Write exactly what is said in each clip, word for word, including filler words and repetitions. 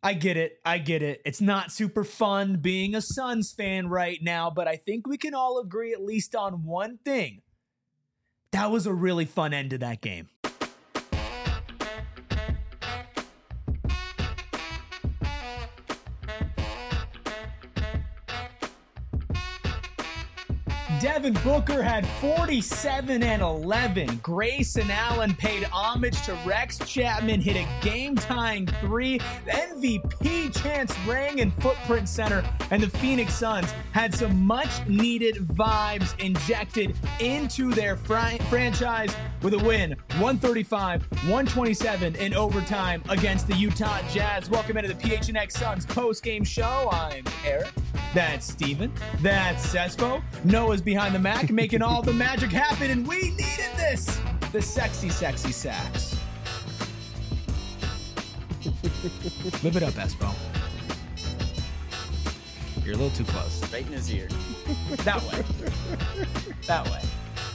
I get it. I get it. It's not super fun being a Suns fan right now, but I think we can all agree at least on one thing. That was a really fun end to that game. Devin Booker had forty-seven and eleven. Grayson Allen paid homage to Rex Chapman, hit a game-tying three. The M V P chants rang in Footprint Center, and the Phoenix Suns had some much-needed vibes injected into their fr- franchise with a win, one thirty-five one twenty-seven in overtime against the Utah Jazz. Welcome into the P H N X Suns post-game show. I'm Eric. That's Steven. That's Cespo. Noah's behind the Mac, making all the magic happen, and we needed this. The sexy, sexy sax. Live it up, Espo. You're a little too close. Right in his ear. That way. That way.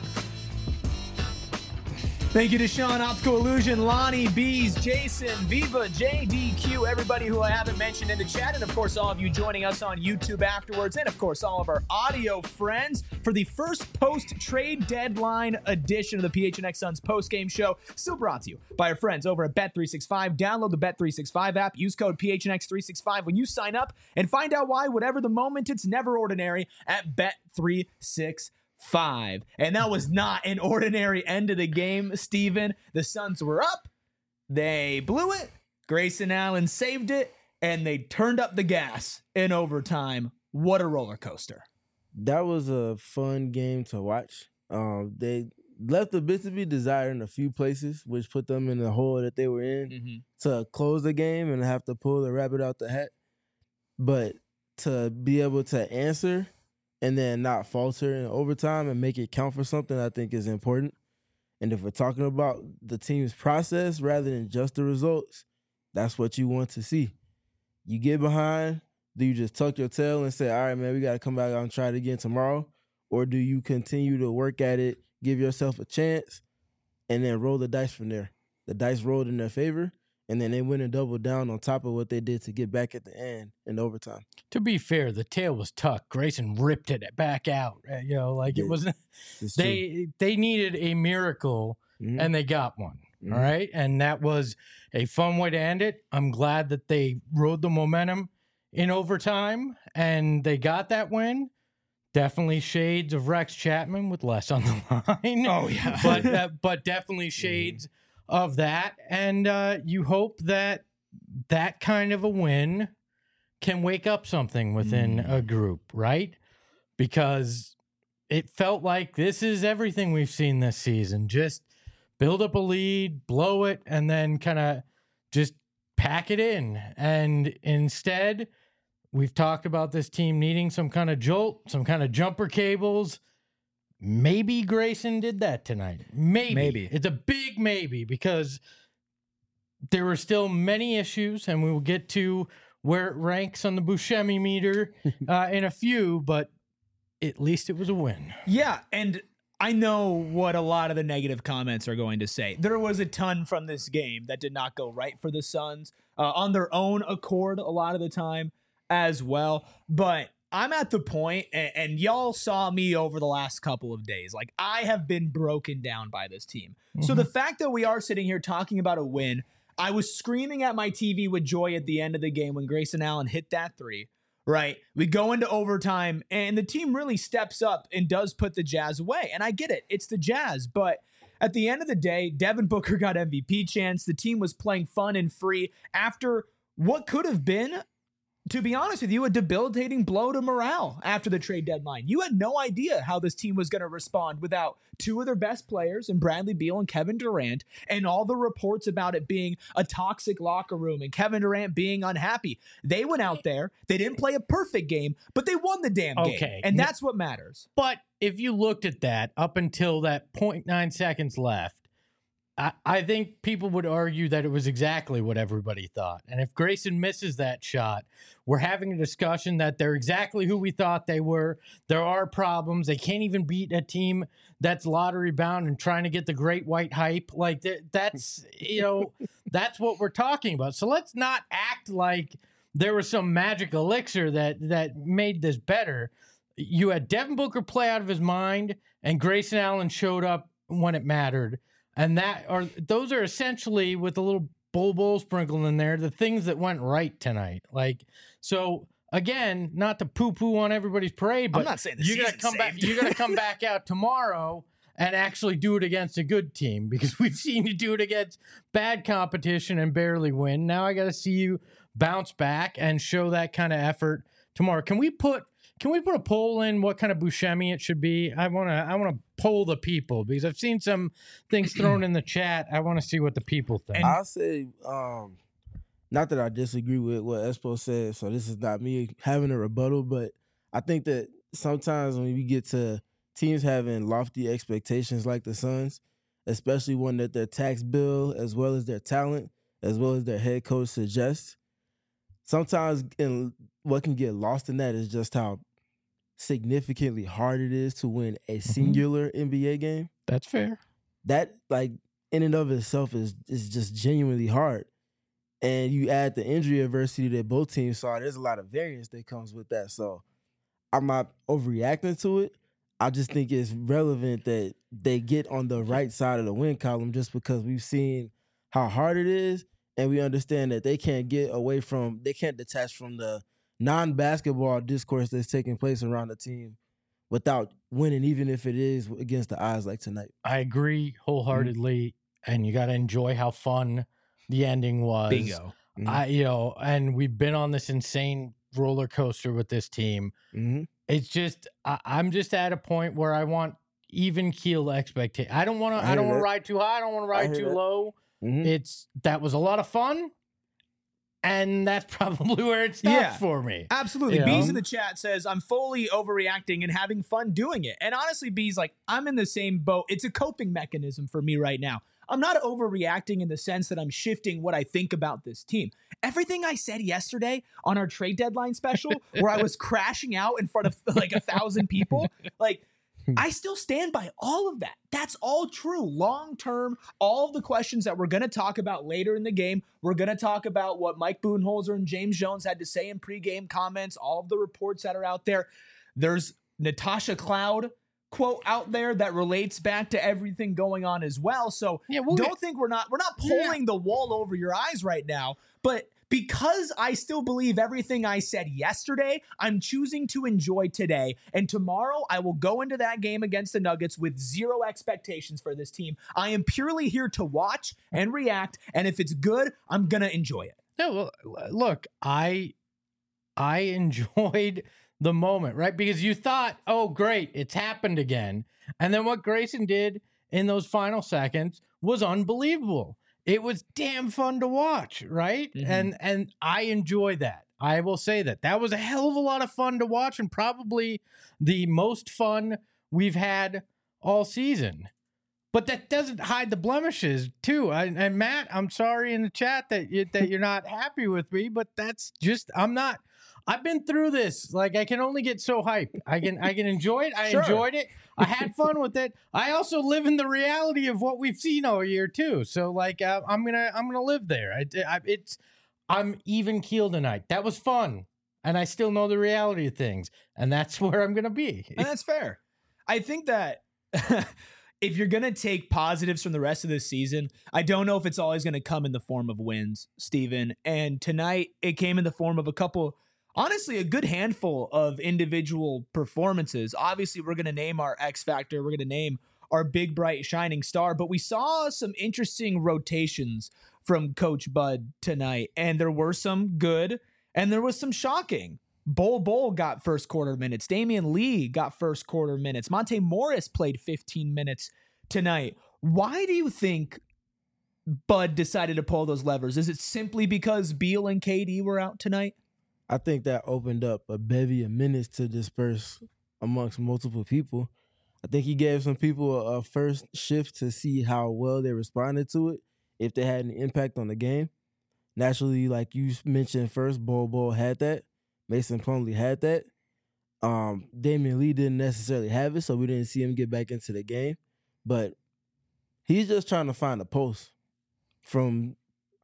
Thank you to Sean, Optical Illusion, Lonnie, Bees, Jason, Viva, J D Q, everybody who I haven't mentioned in the chat, and of course all of you joining us on YouTube afterwards, and of course all of our audio friends for the first post-trade deadline edition of the P H N X Suns post-game show, still brought to you by our friends over at Bet three sixty-five. Download the Bet three sixty-five app, use code P H N X three sixty-five when you sign up, and find out why, whatever the moment, it's never ordinary at Bet three sixty-five. Five. And that was not an ordinary end of the game, Steven. The Suns were up. They blew it. Grayson Allen saved it. And they turned up the gas in overtime. What a roller coaster. That was a fun game to watch. Um, they left a bit to be desired in a few places, which put them in the hole that they were in mm-hmm. to close the game and have to pull the rabbit out the hat. But to be able to answer and then not falter in overtime and make it count for something, I think is important. And if we're talking about the team's process rather than just the results, that's what you want to see. You get behind, do you just tuck your tail and say, all right, man, we got to come back out and try it again tomorrow? Or do you continue to work at it, give yourself a chance, and then roll the dice from there? The dice rolled in their favor, and then they went and doubled down on top of what they did to get back at the end in overtime. To be fair, the tail was tucked. Grayson ripped it back out. You know, like yeah, it wasn't. They true. they needed a miracle, mm-hmm. and they got one. Mm-hmm. All right, and that was a fun way to end it. I'm glad that they rode the momentum in overtime, and they got that win. Definitely shades of Rex Chapman with less on the line. Oh yeah, but uh, but definitely shades. Mm-hmm. of that, and uh, you hope that that kind of a win can wake up something within mm. a group, right? Because it felt like this is everything we've seen this season. Just build up a lead, blow it, and then kind of just pack it in. And instead, we've talked about this team needing some kind of jolt, some kind of jumper cables. Maybe Grayson did that tonight. Maybe. Maybe. It's a big maybe because there were still many issues, and we will get to where it ranks on the Buscemi meter uh, in a few, but at least it was a win. Yeah, and I know what a lot of the negative comments are going to say. There was a ton from this game that did not go right for the Suns uh, on their own accord a lot of the time as well, but I'm at the point, and, and y'all saw me over the last couple of days. Like, I have been broken down by this team. Mm-hmm. So the fact that we are sitting here talking about a win, I was screaming at my T V with joy at the end of the game when Grayson Allen hit that three, right? We go into overtime, and the team really steps up and does put the Jazz away. And I get it. It's the Jazz. But at the end of the day, Devin Booker got M V P chance. The team was playing fun and free after what could have been, to be honest with you, a debilitating blow to morale after the trade deadline. You had no idea how this team was going to respond without two of their best players in Bradley Beal and Kevin Durant, and all the reports about it being a toxic locker room and Kevin Durant being unhappy. They went out there. They didn't play a perfect game, but they won the damn game. Okay. And that's what matters. But if you looked at that up until that zero point nine seconds left, I, I think people would argue that it was exactly what everybody thought. And if Grayson misses that shot, we're having a discussion that they're exactly who we thought they were. There are problems. They can't even beat a team that's lottery bound and trying to get the great white hype. Like that, that's, you know, That's what we're talking about. So let's not act like there was some magic elixir that that made this better. You had Devin Booker play out of his mind, and Grayson Allen showed up when it mattered. And that are those are essentially, with a little Bol Bol sprinkled in there, the things that went right tonight. Like, so again, not to poo-poo on everybody's parade, but I'm not saying the you're gonna season's come back. saved. You're gonna come back out tomorrow and actually do it against a good team, because we've seen you do it against bad competition and barely win. Now I got to see you bounce back and show that kind of effort tomorrow. Can we put Can we put a poll in what kind of Buscemi it should be? I want to I want to poll the people, because I've seen some things thrown in the chat. I want to see what the people think. I'll say, um, not that I disagree with what Espo said, so this is not me having a rebuttal, but I think that sometimes when we get to teams having lofty expectations like the Suns, especially one that their tax bill, as well as their talent, as well as their head coach suggests, sometimes in, what can get lost in that is just how significantly hard it is to win a singular mm-hmm. N B A game. That's fair. That, like, in and of itself is is just genuinely hard. And you add the injury adversity that both teams saw, there's a lot of variance that comes with that. So I'm not overreacting to it. I just think it's relevant that they get on the right side of the win column, just because we've seen how hard it is, and we understand that they can't get away from, they can't detach from the non-basketball discourse that's taking place around the team without winning, even if it is against the odds like tonight. I agree wholeheartedly, mm-hmm. and you got to enjoy how fun the ending was. Bingo. Mm-hmm. I, you know, and we've been on this insane roller coaster with this team. Mm-hmm. It's just, I, I'm just at a point where I want even keel expectation. I don't want to. I, I don't want to ride too high. I don't want to ride too that. low. Mm-hmm. It's that was a lot of fun. And that's probably where it stops yeah, for me. Absolutely. You know? Bees in the chat says, I'm fully overreacting and having fun doing it. And honestly, Bees, like, I'm in the same boat. It's a coping mechanism for me right now. I'm not overreacting in the sense that I'm shifting what I think about this team. Everything I said yesterday on our trade deadline special, where I was crashing out in front of like a thousand people, like, I still stand by all of that. That's all true. Long term, all of the questions that we're going to talk about later in the game, we're going to talk about what Mike Budenholzer and James Jones had to say in pregame comments, all of the reports that are out there. There's Natasha Cloud quote out there that relates back to everything going on as well. So yeah, we'll don't get, think we're not we're not pulling yeah. the wall over your eyes right now, but because I still believe everything I said yesterday, I'm choosing to enjoy today. And tomorrow, I will go into that game against the Nuggets with zero expectations for this team. I am purely here to watch and react. And if it's good, I'm going to enjoy it. No, well, look, I I enjoyed the moment, right? Because you thought, oh, great, it's happened again. And then what Grayson did in those final seconds was unbelievable. It was damn fun to watch, right? Mm-hmm. And and I enjoy that. I will say that. That was a hell of a lot of fun to watch, and probably the most fun we've had all season. But that doesn't hide the blemishes, too. I, and Matt, I'm sorry in the chat that you, that you're not happy with me, but that's just, I'm not. I've been through this. Like, I can only get so hyped. I can I can enjoy it. I sure. enjoyed it. I had fun with it. I also live in the reality of what we've seen all year too. So, like, uh, I'm gonna I'm gonna live there. I, I, it's I'm even keel tonight. That was fun, and I still know the reality of things, and that's where I'm gonna be. And that's fair. I think that. If you're going to take positives from the rest of this season, I don't know if it's always going to come in the form of wins, Steven. And tonight, it came in the form of a couple, honestly, a good handful of individual performances. Obviously, we're going to name our X Factor. We're going to name our big, bright, shining star. But we saw some interesting rotations from Coach Bud tonight. And there were some good, and there was some shocking. Bol Bol got first quarter minutes. Damian Lee got first quarter minutes. Monte Morris played fifteen minutes tonight. Why do you think Bud decided to pull those levers? Is it simply because Beal and K D were out tonight? I think that opened up a bevy of minutes to disperse amongst multiple people. I think he gave some people a, a first shift to see how well they responded to it, if they had an impact on the game. Naturally, like you mentioned first, Bol Bol had that. Mason Plumlee had that. Um, Damian Lee didn't necessarily have it, so we didn't see him get back into the game. But he's just trying to find a post from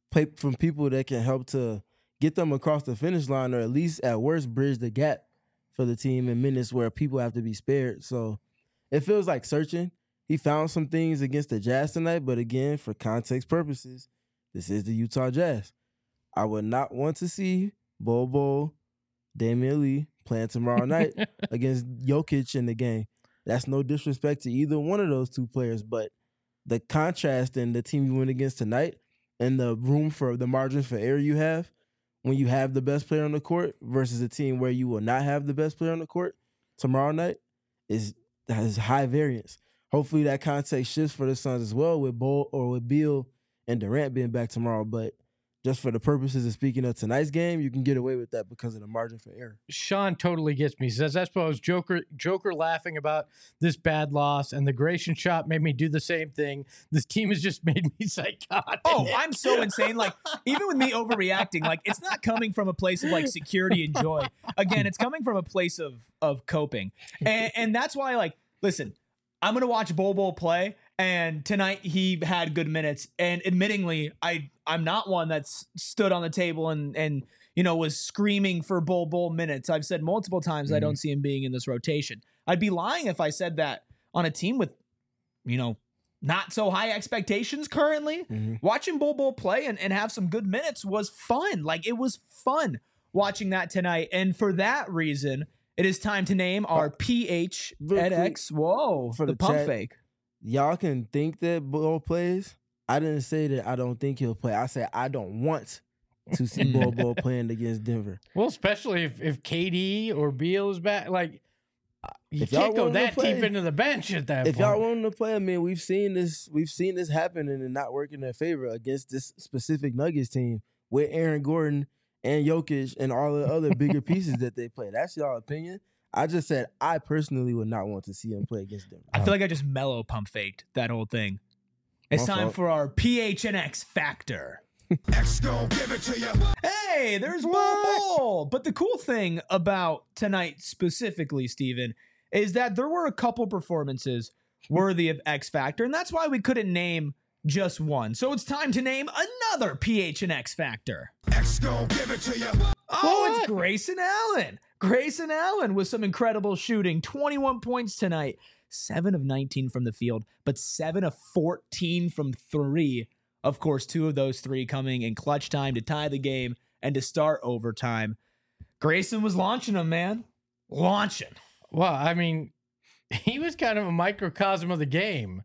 play from people that can help to get them across the finish line, or at least at worst bridge the gap for the team in minutes where people have to be spared. So it feels like searching. He found some things against the Jazz tonight, but again, for context purposes, this is the Utah Jazz. I would not want to see Bol Bol, Damian Lee playing tomorrow night against Jokic in the game. That's no disrespect to either one of those two players, but the contrast in the team you went against tonight and the room for the margin for error you have when you have the best player on the court versus a team where you will not have the best player on the court tomorrow night is has high variance. Hopefully that context shifts for the Suns as well with Bol or with Beal and Durant being back tomorrow, but just for the purposes of speaking of tonight's game, you can get away with that because of the margin for error. Sean totally gets me. He says, I suppose Joker Joker laughing about this bad loss, and the Grayson shot made me do the same thing. This team has just made me psychotic. Oh, I'm so insane. Like, even with me overreacting, like, it's not coming from a place of, like, security and joy. Again, it's coming from a place of of coping. And, and that's why, like, listen, I'm going to watch Bol Bol play. And tonight he had good minutes. And admittingly, I, I'm not one that's stood on the table and, and you know, was screaming for Bol Bol minutes. I've said multiple times mm-hmm. I don't see him being in this rotation. I'd be lying if I said that on a team with, you know, not so high expectations currently. Mm-hmm. Watching Bol Bol play and, and have some good minutes was fun. Like, it was fun watching that tonight. And for that reason, it is time to name our P H N X. Whoa, for the, the pump chat. Fake. Y'all can think that Bol plays. I didn't say that I don't think he'll play. I said I don't want to see Bol Bol playing against Denver. Well, especially if, if K D or Beal is back. Like, you if can't go that play, deep into the bench at that if point. If y'all want him to play, I mean, we've seen this we've seen this happen and it not work in their favor against this specific Nuggets team with Aaron Gordon and Jokic and all the other bigger pieces that they play. That's y'all opinion. I just said I personally would not want to see him play against them. I feel like I just mellow pump faked that whole thing. It's My time fault. for our P H N X factor. X gon' give it to you. Hey, there's Bol Bol. But the cool thing about tonight specifically, Steven, is that there were a couple performances worthy of X factor, and that's why we couldn't name just one. So it's time to name another P H N X factor. X gon' give it to you. Oh, what? It's Grayson Allen. Grayson Allen with some incredible shooting. twenty-one points tonight. seven of nineteen from the field, but seven of fourteen from three. Of course, two of those three coming in clutch time to tie the game and to start overtime. Grayson was launching them, man. Launching. Well, I mean, he was kind of a microcosm of the game.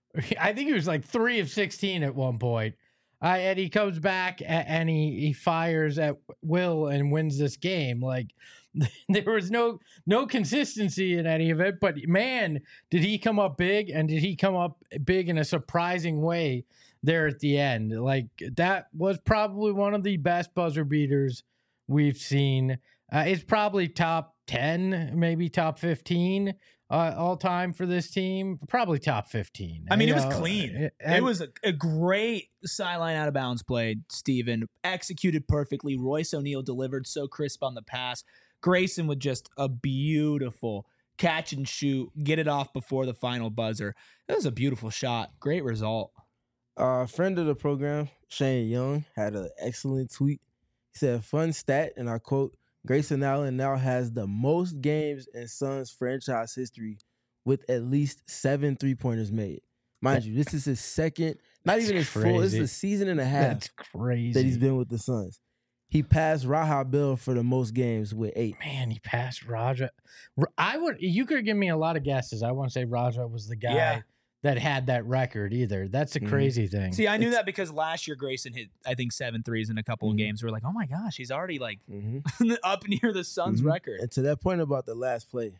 I think he was like three of sixteen at one point. Uh, and he comes back and he, he fires at will and wins this game. Like, there was no no consistency in any of it, but man, did he come up big, and did he come up big in a surprising way there at the end. Like, that was probably one of the best buzzer beaters we've seen. Uh, it's probably top ten, maybe top fifteen uh, all time for this team. Probably top fifteen. I mean, it know? was clean. And it was a, a great sideline out of bounds play, Steven. Executed perfectly. Royce O'Neal delivered so crisp on the pass. Grayson with just a beautiful catch and shoot, get it off before the final buzzer. That was a beautiful shot. Great result. A uh, friend of the program, Shane Young, had an excellent tweet. He said, fun stat, and I quote, Grayson Allen now has the most games in Suns franchise history with at least seven three-pointers made. Mind that, you, this is his second, not even his crazy. full, this is a season and a half That's crazy. that he's been with the Suns. He passed Raja Bell for the most games with eight. Man, he passed Raja. I would. You could give me a lot of guesses. I wouldn't say Raja was the guy yeah. that had that record either. That's a mm-hmm. crazy thing. See, I knew it's, that because last year Grayson hit, I think, seven threes in a couple mm-hmm. of games. We're like, oh my gosh, he's already like mm-hmm. up near the Suns mm-hmm. record. And to that point about the last play,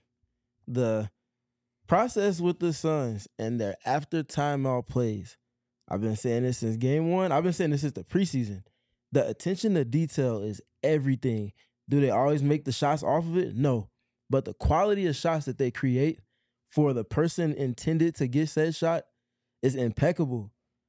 the process with the Suns and their after timeout plays, I've been saying this since game one. I've been saying this since the preseason. The attention to detail is everything. Do they always make the shots off of it? No. But the quality of shots that they create for the person intended to get said shot is impeccable.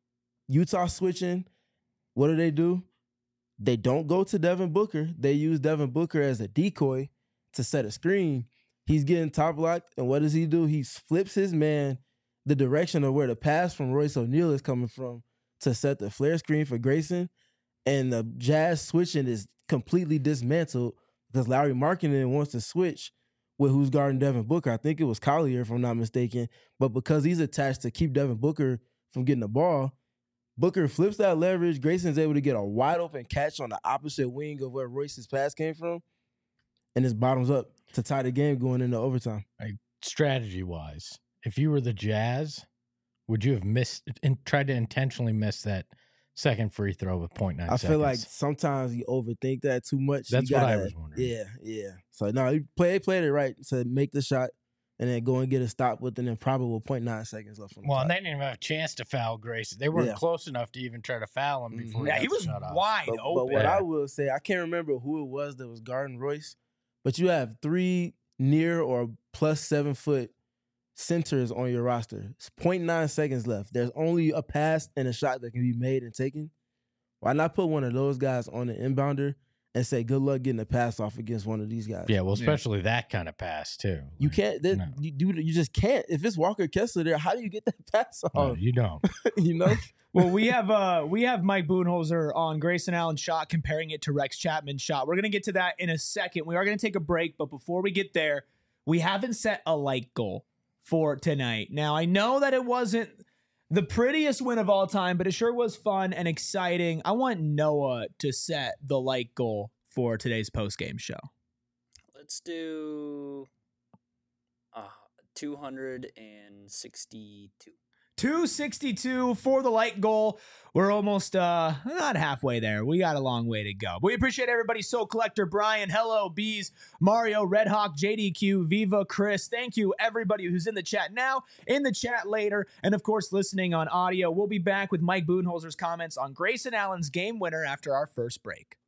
Utah switching, what do they do? They don't go to Devin Booker. They use Devin Booker as a decoy to set a screen. He's getting top locked, and what does he do? He flips his man the direction of where the pass from Royce O'Neal is coming from to set the flare screen for Grayson. and the Jazz switching is completely dismantled because Larry Markkinen wants to switch with who's guarding Devin Booker. I think it was Collier, if I'm not mistaken. But because he's attached to keep Devin Booker from getting the ball, Booker flips that leverage. Grayson's able to get a wide open catch on the opposite wing of where Royce's pass came from, and it's bottoms up to tie the game going into overtime. Like, strategy-wise, if you were the Jazz, would you have missed and tried to intentionally miss that second free throw with point nine I seconds? feel like sometimes you overthink that too much. That's You what I gotta- was wondering. Yeah, yeah. So no, he play, they played it right to make the shot and then go and get a stop with an improbable point nine seconds left on the Well, and clock. they didn't even have a chance to foul Grayson. They weren't Yeah. close enough to even try to foul him before Mhm. he Yeah, got he the was shot off. wide But, but open. what Yeah. I will say, I can't remember who it was that was guarding Royce, but you have three near or plus seven foot centers on your roster. It's point nine seconds left. There's only a pass and a shot that can be made and taken. Why not put one of those guys on the inbounder and say, good luck getting a pass off against one of these guys? Yeah, well, especially that kind of pass, too. You Like, can't. That, no. you, do, you just can't. If it's Walker Kessler there, how do you get that pass no, off? you don't. you know? Well, we have uh we have Mike Budenholzer on Grayson Allen's shot, comparing it to Rex Chapman's shot. We're gonna get to that in a second. We are gonna take a break, but before we get there, we haven't set a like goal for tonight. Now, I know that it wasn't the prettiest win of all time, but it sure was fun and exciting. I want Noah to set the like goal for today's post-game show. Let's do uh, two hundred sixty-two. two sixty-two for the light goal. We're almost uh not halfway there. We got a long way to go. But we appreciate everybody. Soul Collector, Brian, Hello, Bees, Mario, Red Hawk, J D Q, Viva, Chris. Thank you, everybody who's in the chat now, in the chat later, and of course listening on audio. We'll be back with Mike Budenholzer's comments on Grayson Allen's game winner after our first break.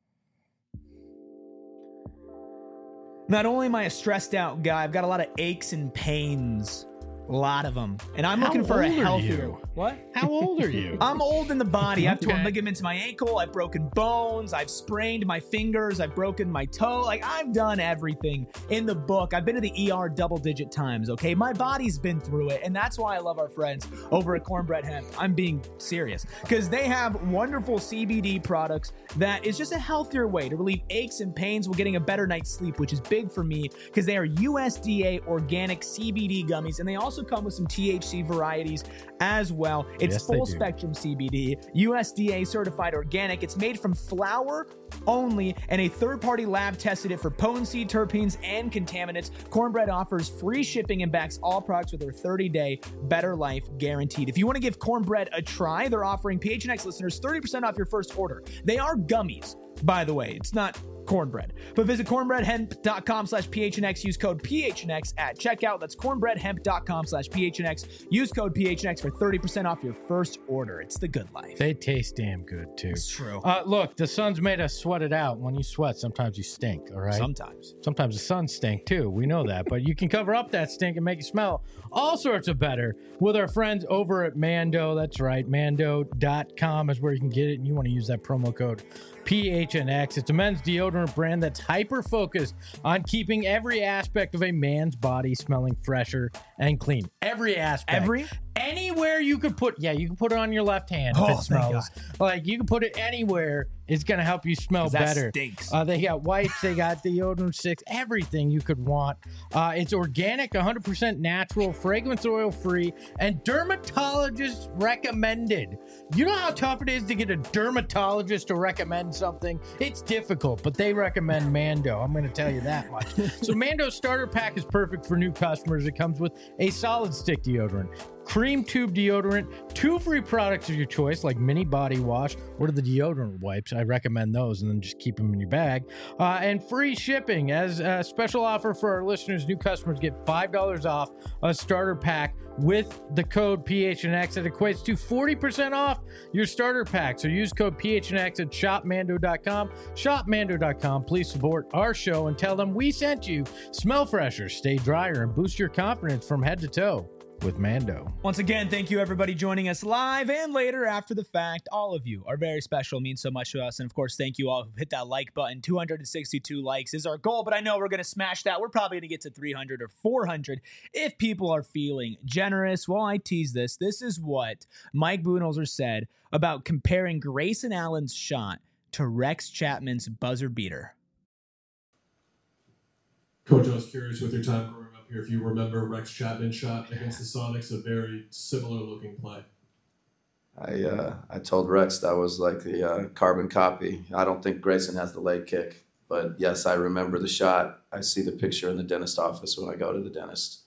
Not only am I a stressed out guy, I've got a lot of aches and pains. A lot of them. And I'm How looking for a old are healthier. you? What? How old are you? I'm old in the body. I've torn Okay. ligaments in my ankle. I've broken bones. I've sprained my fingers. I've broken my toe. Like, I've done everything in the book. I've been to the E R double digit times, okay? My body's been through it. And that's why I love our friends over at Cornbread Hemp. I'm being serious because they have wonderful C B D products that is just a healthier way to relieve aches and pains while getting a better night's sleep, which is big for me because they are U S D A organic C B D gummies. And they also come with some T H C varieties as well. It's Yes, they full do. spectrum C B D, U S D A certified organic. It's made from flower only, and a third-party lab tested it for potency, terpenes, and contaminants. Cornbread offers free shipping and backs all products with their thirty-day Better Life guaranteed. If you want to give Cornbread a try, they're offering P H N X listeners thirty percent off your first order. They are gummies, by the way. It's not cornbread. But visit cornbreadhemp.com slash PHNX. Use code P H N X at checkout. That's cornbreadhemp.com slash PHNX. Use code P H N X for thirty percent off your first order. It's the good life. They taste damn good, too. It's true. Uh, look, the sun's made us sweat it out. When you sweat, sometimes you stink, all right? Sometimes. Sometimes the sun stink too. We know that. But you can cover up that stink and make it smell all sorts of better with our friends over at Mando. That's right. Mando dot com is where you can get it. And you want to use that promo code P H N X. It's a men's deodorant brand that's hyper focused on keeping every aspect of a man's body smelling fresher and clean. Every aspect. Every? Anywhere you could put, yeah, you can put it on your left hand if Oh, it thank smells. Like you can put it anywhere. It's going to help you smell That better. stinks. Uh, they got wipes, they got deodorant sticks, everything you could want. Uh, it's organic, one hundred percent natural, fragrance oil free, and dermatologist recommended. You know how tough it is to get a dermatologist to recommend something? It's difficult, but they recommend Mando. I'm going to tell you that much. So Mando's starter pack is perfect for new customers. It comes with a solid stick deodorant, cream tube deodorant, two free products of your choice like mini body wash or the deodorant wipes. I recommend those, and then just keep them in your bag. Uh, and free shipping. As a special offer for our listeners, new customers get five dollars off a starter pack with the code P H N X. That equates to forty percent off your starter pack. So use code P H N X at shop mando dot com. shop mando dot com. Please support our show and tell them we sent you. Smell fresher, stay drier, and boost your confidence from head to toe. with Mando. Once again, thank you everybody joining us live and later after the fact. All of you are very special, means so much to us. And of course, thank you all who hit that like button. two hundred sixty-two likes is our goal, but I know we're going to smash that. We're probably going to get to three hundred or four hundred if people are feeling generous. Well, I tease this. This is what Mike Budenholzer said about comparing Grayson Allen's shot to Rex Chapman's buzzer beater. Coach, I was curious with your time growing up here if you remember Rex Chapman's shot against the Sonics, a very similar looking play. I uh, I told Rex that was like the uh, carbon copy. I don't think Grayson has the leg kick, but yes, I remember the shot. I see the picture in the dentist office when I go to the dentist.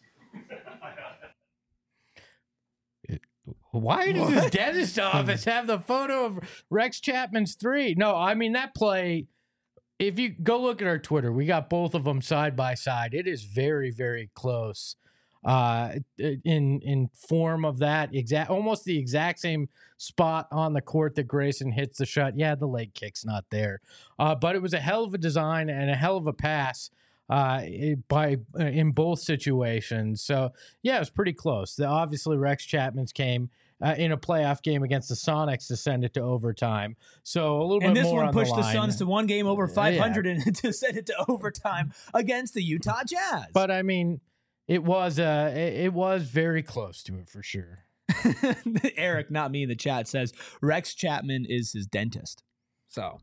Why does his dentist office have the photo of Rex Chapman's three? No, I mean, that play, if you go look at our Twitter, we got both of them side by side. It is very, very close uh, in in form of that exact, almost the exact same spot on the court that Grayson hits the shot. Yeah, the leg kick's not there, uh, but it was a hell of a design and a hell of a pass uh, by in both situations. So yeah, it was pretty close. The, obviously, Rex Chapman's came Uh, in a playoff game against the Sonics to send it to overtime. So a little and bit this more one on pushed the, the, line. Suns to one game over five hundred Yeah. and to send it to overtime against the Utah Jazz. But I mean, it was uh, it, it was very close to it for sure. Eric, not me in the chat, says Rex Chapman is his dentist. So,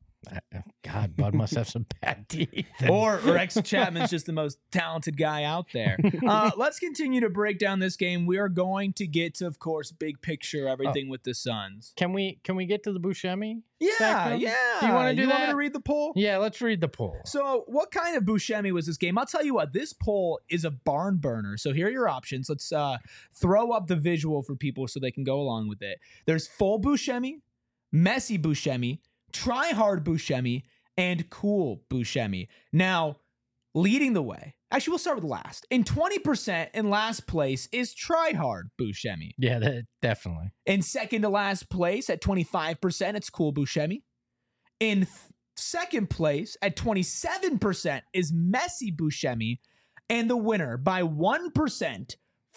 God, Bud must have some bad teeth. or Rex Chapman's just the most talented guy out there. Uh, let's continue to break down this game. We are going to get to, of course, big picture, everything oh. with the Suns. Can we can we get to the Buscemi? Yeah, spectrum? yeah. Do you want to do you that? want me to read the poll? Yeah, let's read the poll. So, what kind of Buscemi was this game? I'll tell you what. This poll is a barn burner. So here are your options. Let's uh, throw up the visual for people so they can go along with it. There's full Buscemi, messy Buscemi, try hard Buscemi, and cool Buscemi. Now, leading the way, actually, we'll start with last. In twenty percent in last place is try hard Buscemi. Yeah, that, definitely. In second to last place at twenty-five percent, it's cool Buscemi. In th- second place at twenty-seven percent is messy Buscemi. And the winner by one percent,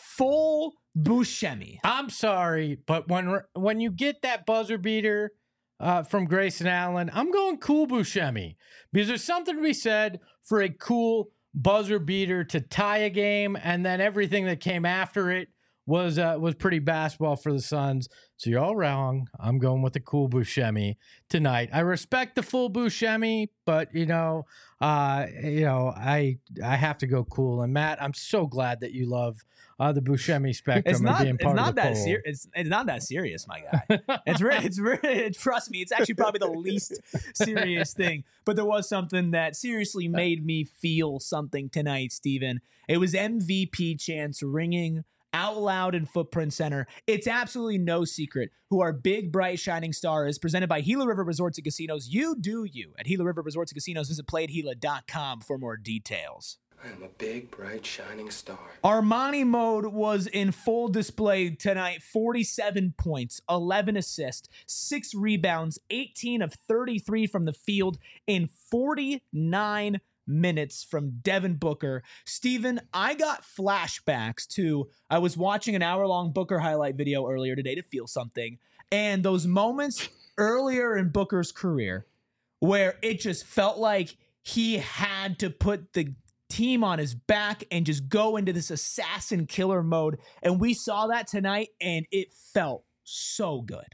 full Buscemi. I'm sorry, but when when you get that buzzer beater Uh, from Grayson Allen, I'm going cool Buscemi because there's something to be said for a cool buzzer beater to tie a game, and then everything that came after it was uh, was pretty basketball for the Suns. So you're all wrong. I'm going with the cool Buscemi tonight. I respect the full Buscemi, but you know, uh, you know, I I have to go cool. And Matt, I'm so glad that you love Uh, the Buscemi spectrum. It's not. And being It's part not of the that poll. serious. It's, it's not that serious, my guy. It's really. It's really. Trust me. It's actually probably the least serious thing. But there was something that seriously made me feel something tonight, Steven. It was M V P chants ringing out loud in Footprint Center. It's absolutely no secret who our big, bright, shining star is. Presented by Gila River Resorts and Casinos. You do you at Gila River Resorts and Casinos. Visit play at gila dot com for more details. I'm a big, bright, shining star. Armani mode was in full display tonight. forty-seven points, eleven assists, six rebounds, eighteen of thirty-three from the field in forty-nine minutes from Devin Booker. Steven, I got flashbacks to, I was watching an hour-long Booker highlight video earlier today to feel something, and those moments earlier in Booker's career where it just felt like he had to put the team on his back and just go into this assassin killer mode. And we saw that tonight, and it felt so good.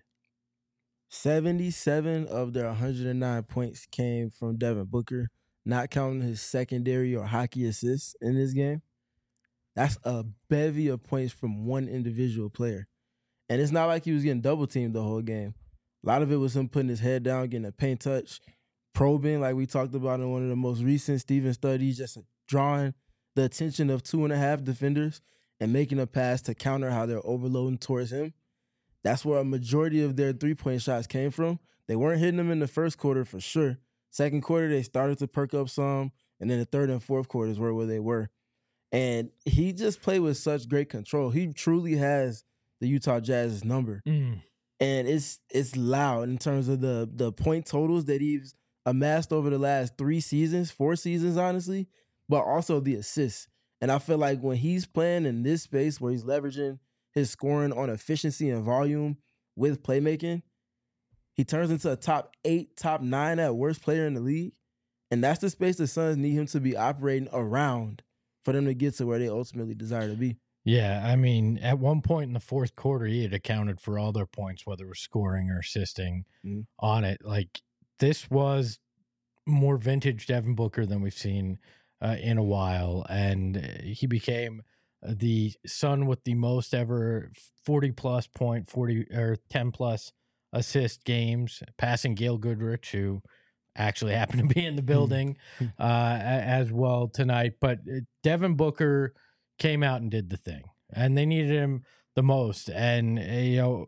seventy-seven of their one hundred nine points came from Devin Booker, not counting his secondary or hockey assists in this game. That's a bevy of points from one individual player. And it's not like he was getting double teamed the whole game. A lot of it was him putting his head down, getting a paint touch, probing, like we talked about in one of the most recent Steven studies, just drawing the attention of two and a half defenders and making a pass to counter how they're overloading towards him. That's where a majority of their three-point shots came from. They weren't hitting them in the first quarter for sure. Second quarter, they started to perk up some, and then the third and fourth quarters were where they were. And he just played with such great control. He truly has the Utah Jazz's number. Mm. And it's it's loud in terms of the, the point totals that he's amassed over the last three seasons, four seasons, honestly, but also the assists. And I feel like when he's playing in this space where he's leveraging his scoring on efficiency and volume with playmaking, he turns into a top eight, top nine at worst player in the league. And that's the space the Suns need him to be operating around for them to get to where they ultimately desire to be. Yeah, I mean, at one point in the fourth quarter, he had accounted for all their points, whether it was scoring or assisting mm-hmm. on it. Like, this was more vintage Devin Booker than we've seen uh, in a while. And he became the Sun with the most ever forty-plus point, forty or ten-plus assist games, passing Gail Goodrich, who actually happened to be in the building uh, as well tonight. But Devin Booker came out and did the thing, and they needed him the most. And, you know,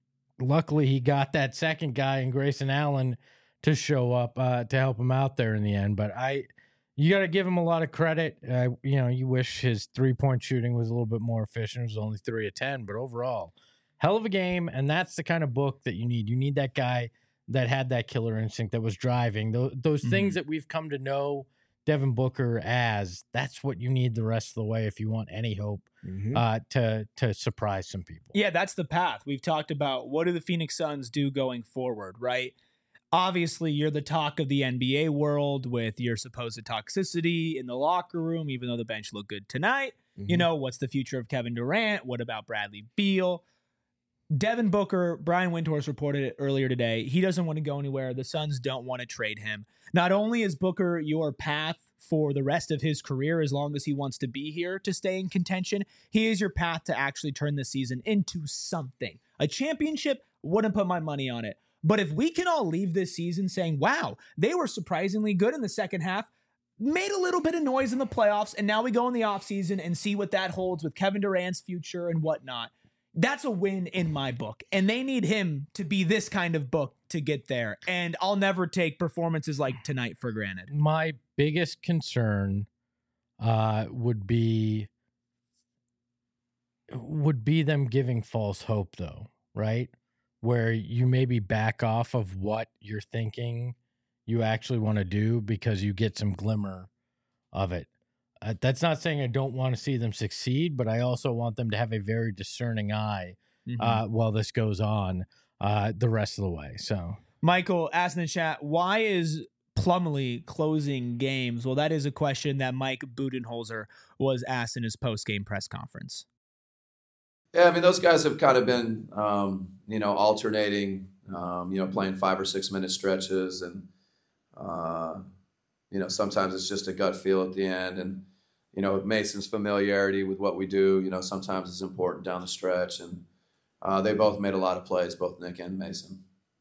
luckily he got that second guy in Grayson Allen to show up uh, to help him out there in the end. But I, you got to give him a lot of credit. Uh, you know, you wish his three-point shooting was a little bit more efficient. It was only three of ten, but overall, hell of a game. And that's the kind of book that you need. You need that guy that had that killer instinct, that was driving. Those, those mm-hmm. things that we've come to know Devin Booker as, that's what you need the rest of the way if you want any hope mm-hmm. uh, to to surprise some people. Yeah, that's the path. We've talked about what do the Phoenix Suns do going forward, right? Obviously, you're the talk of the N B A world with your supposed toxicity in the locker room, even though the bench looked good tonight. Mm-hmm. You know, what's the future of Kevin Durant? What about Bradley Beal? Devin Booker, Brian Windhorst reported it earlier today. He doesn't want to go anywhere. The Suns don't want to trade him. Not only is Booker your path for the rest of his career, as long as he wants to be here to stay in contention, he is your path to actually turn this season into something. A championship, wouldn't put my money on it. But if we can all leave this season saying, wow, they were surprisingly good in the second half, made a little bit of noise in the playoffs, and now we go in the offseason and see what that holds with Kevin Durant's future and whatnot. That's a win in my book. And they need him to be this kind of book to get there. And I'll never take performances like tonight for granted. My biggest concern uh, would be would be them giving false hope, though, right? Where you maybe back off of what you're thinking you actually want to do because you get some glimmer of it. Uh, that's not saying I don't want to see them succeed, but I also want them to have a very discerning eye mm-hmm. uh, while this goes on uh, the rest of the way. So, Michael asked in the chat, why is Plumlee closing games? Well, that is a question that Mike Budenholzer was asked in his post-game press conference. Yeah, I mean, those guys have kind of been, um, you know, alternating, um, you know, playing five or six minute stretches. And, uh, you know, sometimes it's just a gut feel at the end. And, you know, Mason's familiarity with what we do, you know, sometimes it's important down the stretch. And uh, they both made a lot of plays, both Nick and Mason.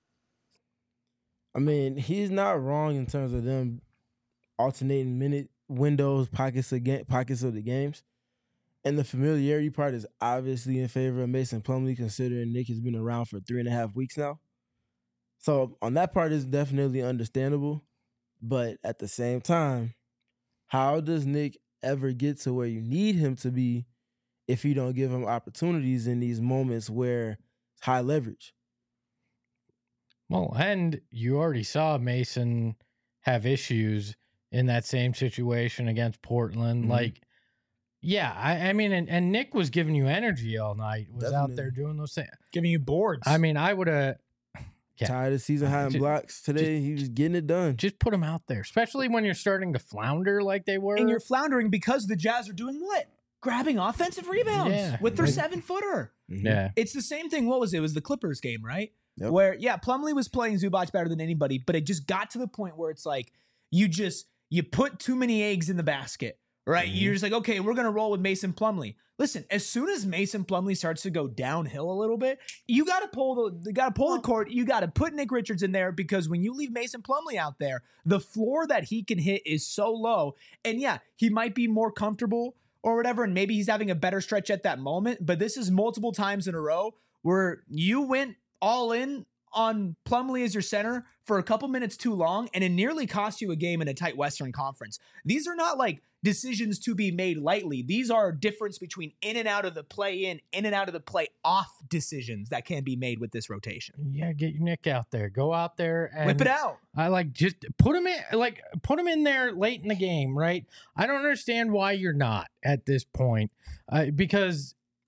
I mean, he's not wrong in terms of them alternating minute windows, pockets of, ga- pockets of the games. And the familiarity part is obviously in favor of Mason Plumlee, considering Nick has been around for three and a half weeks now. So on that part, it's definitely understandable. But at the same time, how does Nick ever get to where you need him to be if you don't give him opportunities in these moments where it's high leverage? Well, and you already saw Mason have issues in that same situation against Portland. Mm-hmm. Like, yeah, I, I mean, and, and Nick was giving you energy all night, was Definitely. out there doing those things. Giving you boards. I mean, I would have... Yeah. Tired of season high in just, blocks today. Just, he was getting it done. Just put him out there, especially when you're starting to flounder like they were. And you're floundering because the Jazz are doing what? Grabbing offensive rebounds yeah. with their like, seven-footer. Yeah. It's the same thing. What was it? It was the Clippers game, right? Yep. Where, yeah, Plumlee was playing Zubac better than anybody, but it just got to the point where it's like you just, you put too many eggs in the basket, right? Mm-hmm. You're just like, okay, we're going to roll with Mason Plumlee. Listen, as soon as Mason Plumlee starts to go downhill a little bit, you got to pull the you got to pull the cord. You got to put Nick Richards in there, because when you leave Mason Plumlee out there, the floor that he can hit is so low. And yeah, he might be more comfortable or whatever, and maybe he's having a better stretch at that moment. But this is multiple times in a row where you went all in on Plumlee as your center for a couple minutes too long, and it nearly cost you a game in a tight Western Conference. These are not like decisions to be made lightly. These are a difference between in and out of the play in, in and out of the play off decisions that can be made with this rotation. Yeah, get your Nick out there. Go out there and whip it out. I like just put him in, like put him in there late in the game, right? I don't understand why you're not at this point, uh, because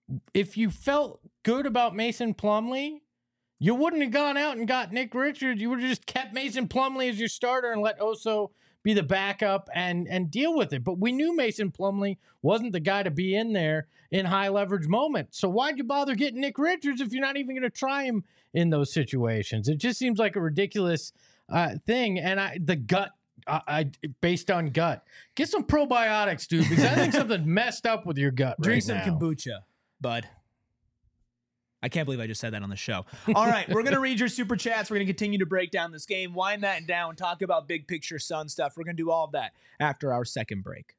if you felt good about Mason Plumlee, you wouldn't have gone out and got Nick Richards. You would have just kept Mason Plumlee as your starter and let Oso be the backup and and deal with it. But we knew Mason Plumlee wasn't the guy to be in there in high leverage moments. So why'd you bother getting Nick Richards if you're not even going to try him in those situations? It just seems like a ridiculous uh, thing. And I the gut, I, I based on gut, get some probiotics, dude, because I think something messed up with your gut. Drink right some now. kombucha, bud. I can't believe I just said that on the show. All right, we're going to read your super chats. We're going to continue to break down this game, wind that down, talk about big picture Sun stuff. We're going to do all of that after our second break.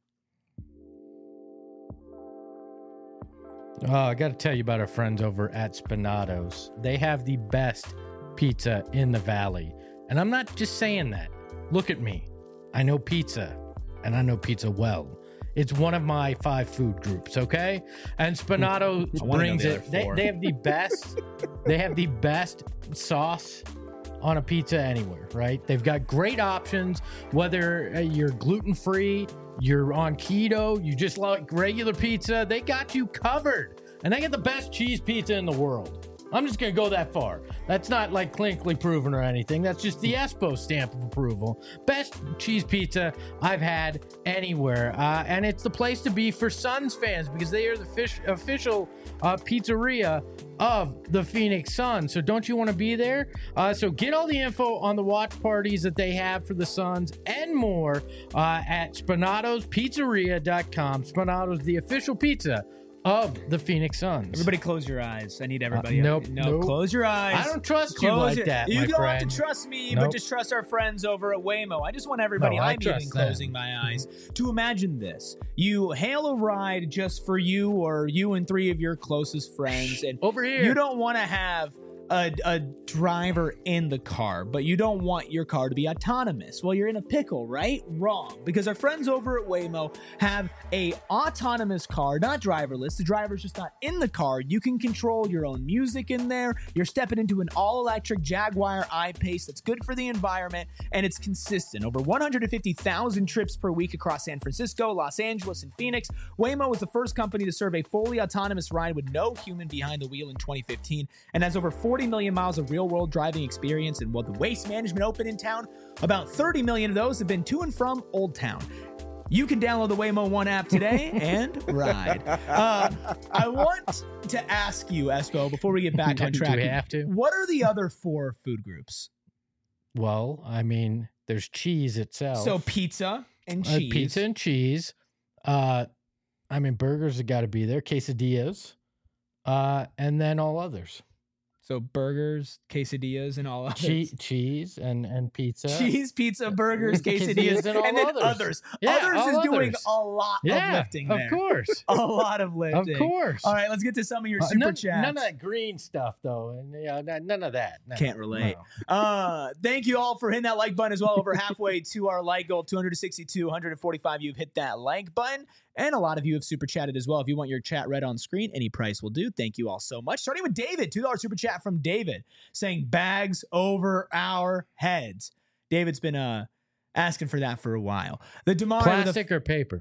Oh, I got to tell you about our friends over at Spinato's. They have the best pizza in the valley. And I'm not just saying that. Look at me. I know pizza, and I know pizza well. It's one of my five food groups, okay? And Spinato brings the it. They, they have the best. They have the best sauce on a pizza anywhere, right? They've got great options. Whether uh, you're gluten free, you're on keto, you just like regular pizza, they got you covered. And they get the best cheese pizza in the world. I'm just going to go that far. That's not like clinically proven or anything. That's just the Espo stamp of approval. Best cheese pizza I've had anywhere. Uh, and it's the place to be for Suns fans because they are the fish, official uh, pizzeria of the Phoenix Suns. So don't you want to be there? Uh, so get all the info on the watch parties that they have for the Suns and more uh, at spinatos pizzeria dot com. Spinatos, the official pizza of the Phoenix Suns. Everybody close your eyes. I need everybody. Uh, nope, No, nope. close your eyes. I don't trust Close you like it. that, You my don't friend. have to trust me, Nope. but just trust our friends over at Waymo. I just want everybody, No, I I'm even trust them. closing my eyes, to imagine this. You hail a ride just for you or you and three of your closest friends. And Over here. you don't want to have a, a driver in the car, but you don't want your car to be autonomous. Well, you're in a pickle, right? Wrong. Because our friends over at Waymo have a autonomous car, not driverless. The driver's just not in the car. You can control your own music in there. You're stepping into an all-electric Jaguar I-Pace that's good for the environment, and it's consistent. Over one hundred fifty thousand trips per week across San Francisco, Los Angeles, and Phoenix. Waymo was the first company to serve a fully autonomous ride with no human behind the wheel in twenty fifteen, and has over forty million miles of real-world driving experience. And while the Waste Management Open in town, about thirty million of those have been to and from Old Town. You can download the Waymo One app today and ride. Uh, I want to ask you, Espo, before we get back on Do track, we have to? what are the other four food groups? Well, I mean, there's cheese itself. So pizza and Uh, cheese. pizza and cheese. Uh, I mean, burgers have got to be there. Quesadillas. Uh, and then all others. So burgers, quesadillas, and all others. Che- cheese and, and pizza. Cheese, pizza, burgers, quesadillas, Quesadillas, and all and then others. others. Yeah, others all is doing others. a lot Yeah, of lifting there. of course. A lot of lifting. Of course. All right, let's get to some of your Uh, super none, chats. none of that green stuff, though. And you know, none, none of that. No, Can't relate. no. Uh, thank you all for hitting that like button as well. Over halfway to our like goal, two hundred sixty-two, one hundred forty-five. You've hit that like button. And a lot of you have super chatted as well. If you want your chat read on screen, any price will do. Thank you all so much. Starting with David, two dollars super chat from David saying bags over our heads. David's been uh asking for that for a while. The Damari Plastic or paper?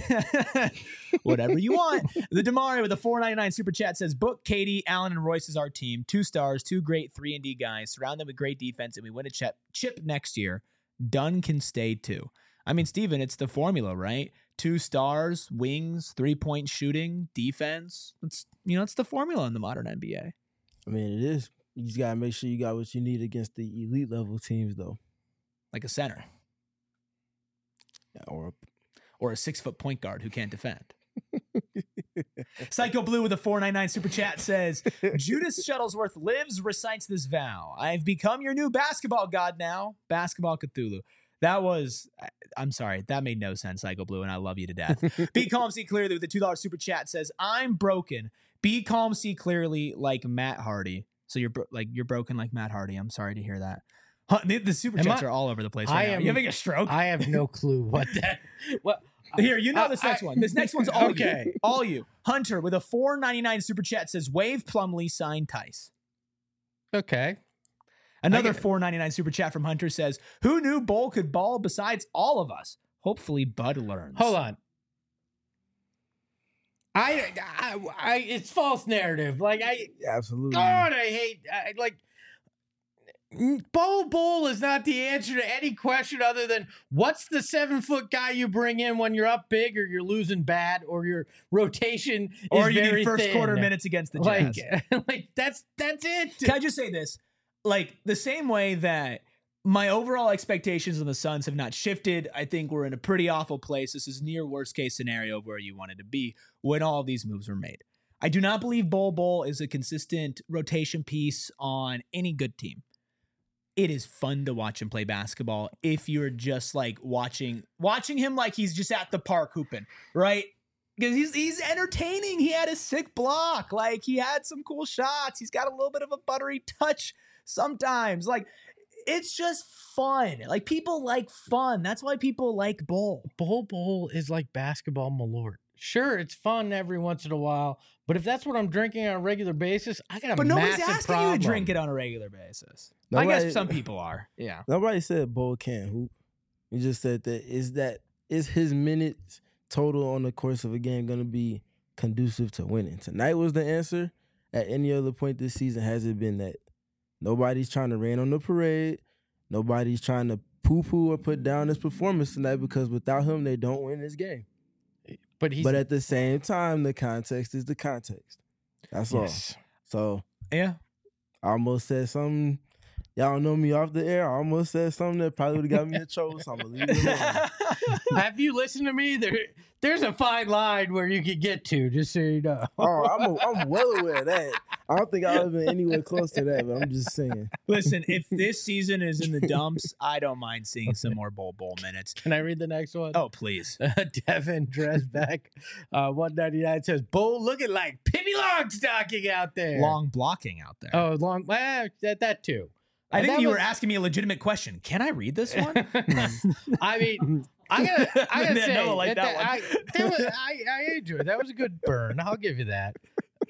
whatever you want. The Damari with a four ninety-nine super chat says, book Katie, Allen, and Royce as our team. Two stars, two great three and D guys. Surround them with great defense, and we win a chip, chip next year. Dunn can stay too. I mean, Steven, it's the formula, right? Two stars, wings, three-point shooting, defense. It's, you know, it's the formula in the modern N B A. I mean, it is. You just gotta make sure you got what you need against the elite level teams, though. Like a center Yeah, or or a six-foot point guard who can't defend. Psycho Blue with a four ninety-nine super chat says, Judas Shuttlesworth lives, recites this vow. I've become your new basketball god now. Basketball Cthulhu. That was, I'm sorry, that made no sense, Psycho Blue, and I love you to death. Be Calm, See Clearly with the two dollars super chat says, I'm broken. Be calm, see clearly like Matt Hardy. So you're bro- like you're broken like Matt Hardy. I'm sorry to hear that. Huh, the, the super Am chats I- are all over the place I right now. am- You having a stroke? I have no clue what that. What? Here, you know I- this next I- one. This next one's all Okay. you. All you. Hunter with a four ninety-nine super chat says, Wave Plumlee, sign Tice. Okay. Another I get it. four ninety-nine super chat from Hunter says, who knew Bull could ball besides all of us? Hopefully Bud learns. Hold on. I, I, I, it's false narrative. Like I, Absolutely. God, I hate. I, like, Bol Bol is not the answer to any question other than what's the seven foot guy you bring in when you're up big or you're losing bad or your rotation is or you very need first thin. quarter minutes against the Jazz. Like, like that's that's it. Can I just say this? Like the same way that my overall expectations on the Suns have not shifted. I think we're in a pretty awful place. This is near worst case scenario of where you wanted to be when all of these moves were made. I do not believe Bol Bol is a consistent rotation piece on any good team. It is fun to watch him play basketball if you're just like watching watching him like he's just at the park hooping, right? Because he's he's entertaining. He had a sick block. Like he had some cool shots. He's got a little bit of a buttery touch sometimes. Like it's just fun. Like people like fun. That's why people like Bol. Bol Bol is like basketball malort. Sure, it's fun every once in a while, but if that's what I'm drinking on a regular basis, I got a But nobody's massive asking problem. you to drink it on a regular basis. Nobody- I guess some people are. Yeah. Nobody said Bol can't hoop. You just said that is that is his minutes total on the course of a game going to be conducive to winning? Tonight was the answer. At any other point this season, has it been that? Nobody's trying to rain on the parade. Nobody's trying to poo-poo or put down his performance tonight because without him, they don't win this game. But he's But at the same time, the context is the context. That's yes. all. So Yeah. I almost said something. Y'all know me off the air. I almost said something that probably would have got me in trouble, so I'm going to leave it alone. Have you listened to me? There, there's a fine line where you can get to, just so you know. Oh, I'm, a, I'm well aware of that. I don't think I've ever been anywhere close to that, but I'm just saying. Listen, if this season is in the dumps, I don't mind seeing some more Bol Bol minutes. Can I read the next one? Oh, please. Devin Dresbeck, uh, one ninety-nine says, Bol looking like Pippi Longstocking out there. Long blocking out there. Oh, long. Well, that, that too. I Uh, think that you was- were asking me a legitimate question. Can I read this one? I mean, I gotta, I gotta Yeah, say, Noah liked that, that that- I, that was, I, I enjoyed it. That was a good burn. I'll give you that.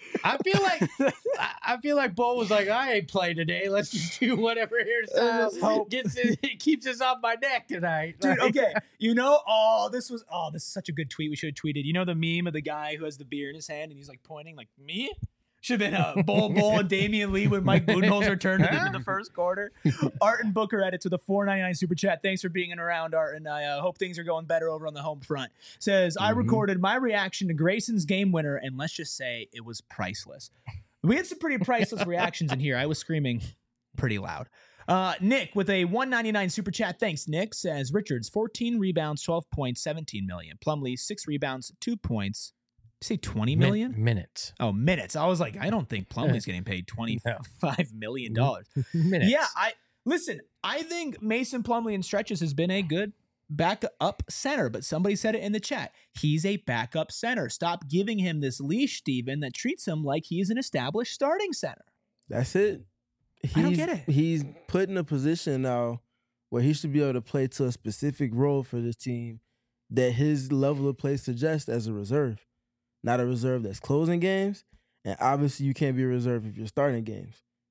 I feel like I, I feel like Bol was like, I ain't playing today. Let's just do whatever hairstyle gets it, it keeps us off my neck tonight. Dude, Like, okay. You know, oh, this was oh, this is such a good tweet. We should have tweeted. You know the meme of the guy who has the beer in his hand and he's like pointing like me? Should have been a Bol Bol and Damian Lee when Mike Budenholzer turned it into the first quarter. Art and Booker edits with a four ninety-nine super chat. Thanks for being around, Art, and I uh, hope things are going better over on the home front. Says, I Mhm. recorded my reaction to Grayson's game winner, and let's just say it was priceless. We had some pretty priceless reactions in here. I was screaming pretty loud. Uh, Nick with a one ninety-nine super chat. Thanks, Nick. Says, Richards, fourteen rebounds, twelve points, seventeen million. Plumlee, six rebounds, two points. Say twenty min- million? minutes. Oh, minutes. I was like, I don't think Plumlee's getting paid twenty-five million dollars. Minutes. Yeah, I listen, I think Mason Plumlee in stretches has been a good backup center, but somebody said it in the chat. He's a backup center. Stop giving him this leash, Steven, that treats him like he's an established starting center. That's it. He's, I don't get it. He's put in a position now where he should be able to play to a specific role for this team that his level of play suggests as a reserve. Not a reserve that's closing games, and obviously you can't be a reserve if you're starting games.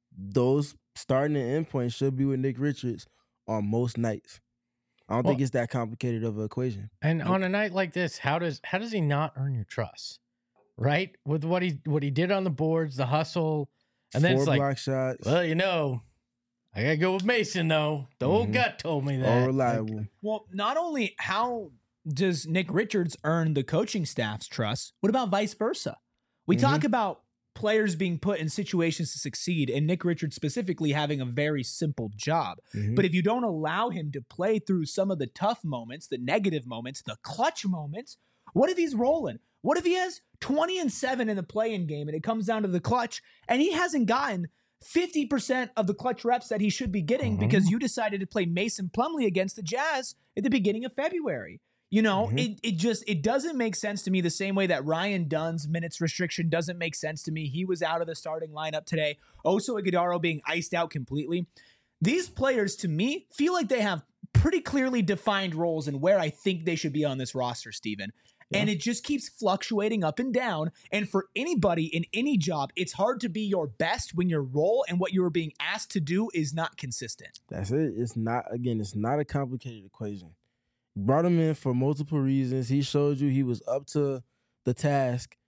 Those starting and end points should be with Nick Richards on most nights. I don't Well- think it's that complicated of an equation. And on a night like this, how does how does he not earn your trust? Right? With what he what he did on the boards, the hustle, and then Four it's like, block shots, well, you know, I gotta go with Mason though. The old Mhm. gut told me all that. reliable. Well, not only how does Nick Richards earn the coaching staff's trust, what about vice versa? We Mhm. talk about players being put in situations to succeed, and Nick Richards specifically having a very simple job. Mhm. But if you don't allow him to play through some of the tough moments, the negative moments, the clutch moments, what if he's rolling? What if he has twenty and seven in the play-in game and it comes down to the clutch and he hasn't gotten fifty percent of the clutch reps that he should be getting Mhm. because you decided to play Mason Plumlee against the Jazz at the beginning of February? You know, Mhm. it, it just, it doesn't make sense to me the same way that Ryan Dunn's minutes restriction doesn't make sense to me. He was out of the starting lineup today. Oso Ighodaro being iced out completely. These players, to me, feel like they have pretty clearly defined roles and where I think they should be on this roster, Steven. And it just keeps fluctuating up and down. And for anybody in any job, it's hard to be your best when your role and what you are being asked to do is not consistent. That's it. It's not, again, it's not a complicated equation. Brought him in for multiple reasons. He showed you he was up to the task.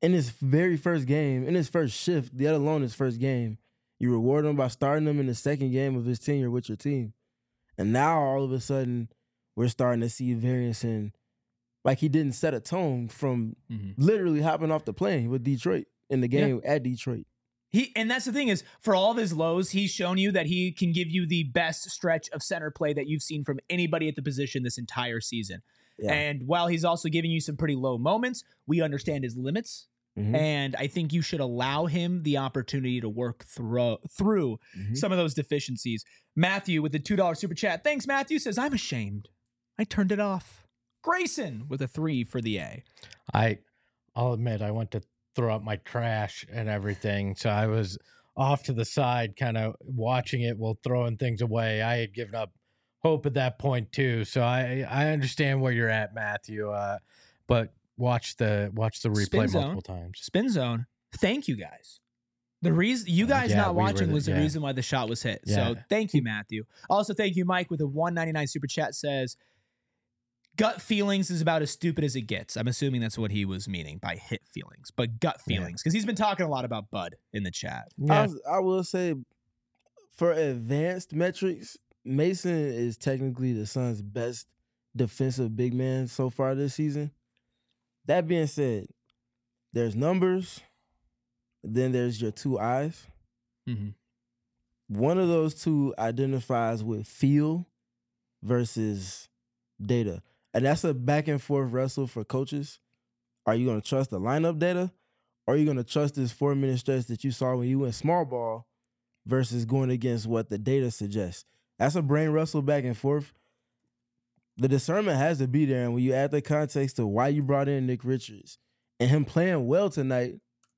in his very first game, in his first shift, let alone his first game, you reward him by starting him in the second game of his tenure with your team. And now all of a sudden, we're starting to see variance in, like he didn't set a tone from mm-hmm. literally hopping off the plane with Detroit in the game yeah. at Detroit. He and that's the thing is, for all of his lows, he's shown you that he can give you the best stretch of center play that you've seen from anybody at the position this entire season. Yeah. And while he's also giving you some pretty low moments, we understand his limits. Mm-hmm. And I think you should allow him the opportunity to work through through mm-hmm. some of those deficiencies. Matthew with the two dollar super chat. Thanks, Matthew. Says, I'm ashamed. I turned it off. Grayson with a three for the A. I, I'll admit, I went to throw out my trash and everything. So I was off to the side kind of watching it while throwing things away. I had given up hope at that point too. So I, I understand where you're at, Matthew. Uh, but Watch the watch the replay Spin multiple zone. times. Spin zone. Thank you guys. The reason you guys uh, yeah, not we watching the, was the yeah. reason why the shot was hit. Yeah. So thank you, Matthew. Also, thank you, Mike, with a one ninety-nine super chat. Says, gut feelings is about as stupid as it gets. I'm assuming that's what he was meaning by hit feelings, but gut feelings, because yeah. he's been talking a lot about Bud in the chat. Yeah. I, was, I will say, for advanced metrics, Mason is technically the Suns' best defensive big man so far this season. That being said, there's numbers, then there's your two eyes. Mm-hmm. One of those two identifies with feel versus data. And that's a back and forth wrestle for coaches. Are you going to trust the lineup data? Or are you going to trust this four-minute stretch that you saw when you went small ball versus going against what the data suggests? That's a brain wrestle back and forth. The discernment has to be there, and when you add the context to why you brought in Nick Richards and him playing well tonight.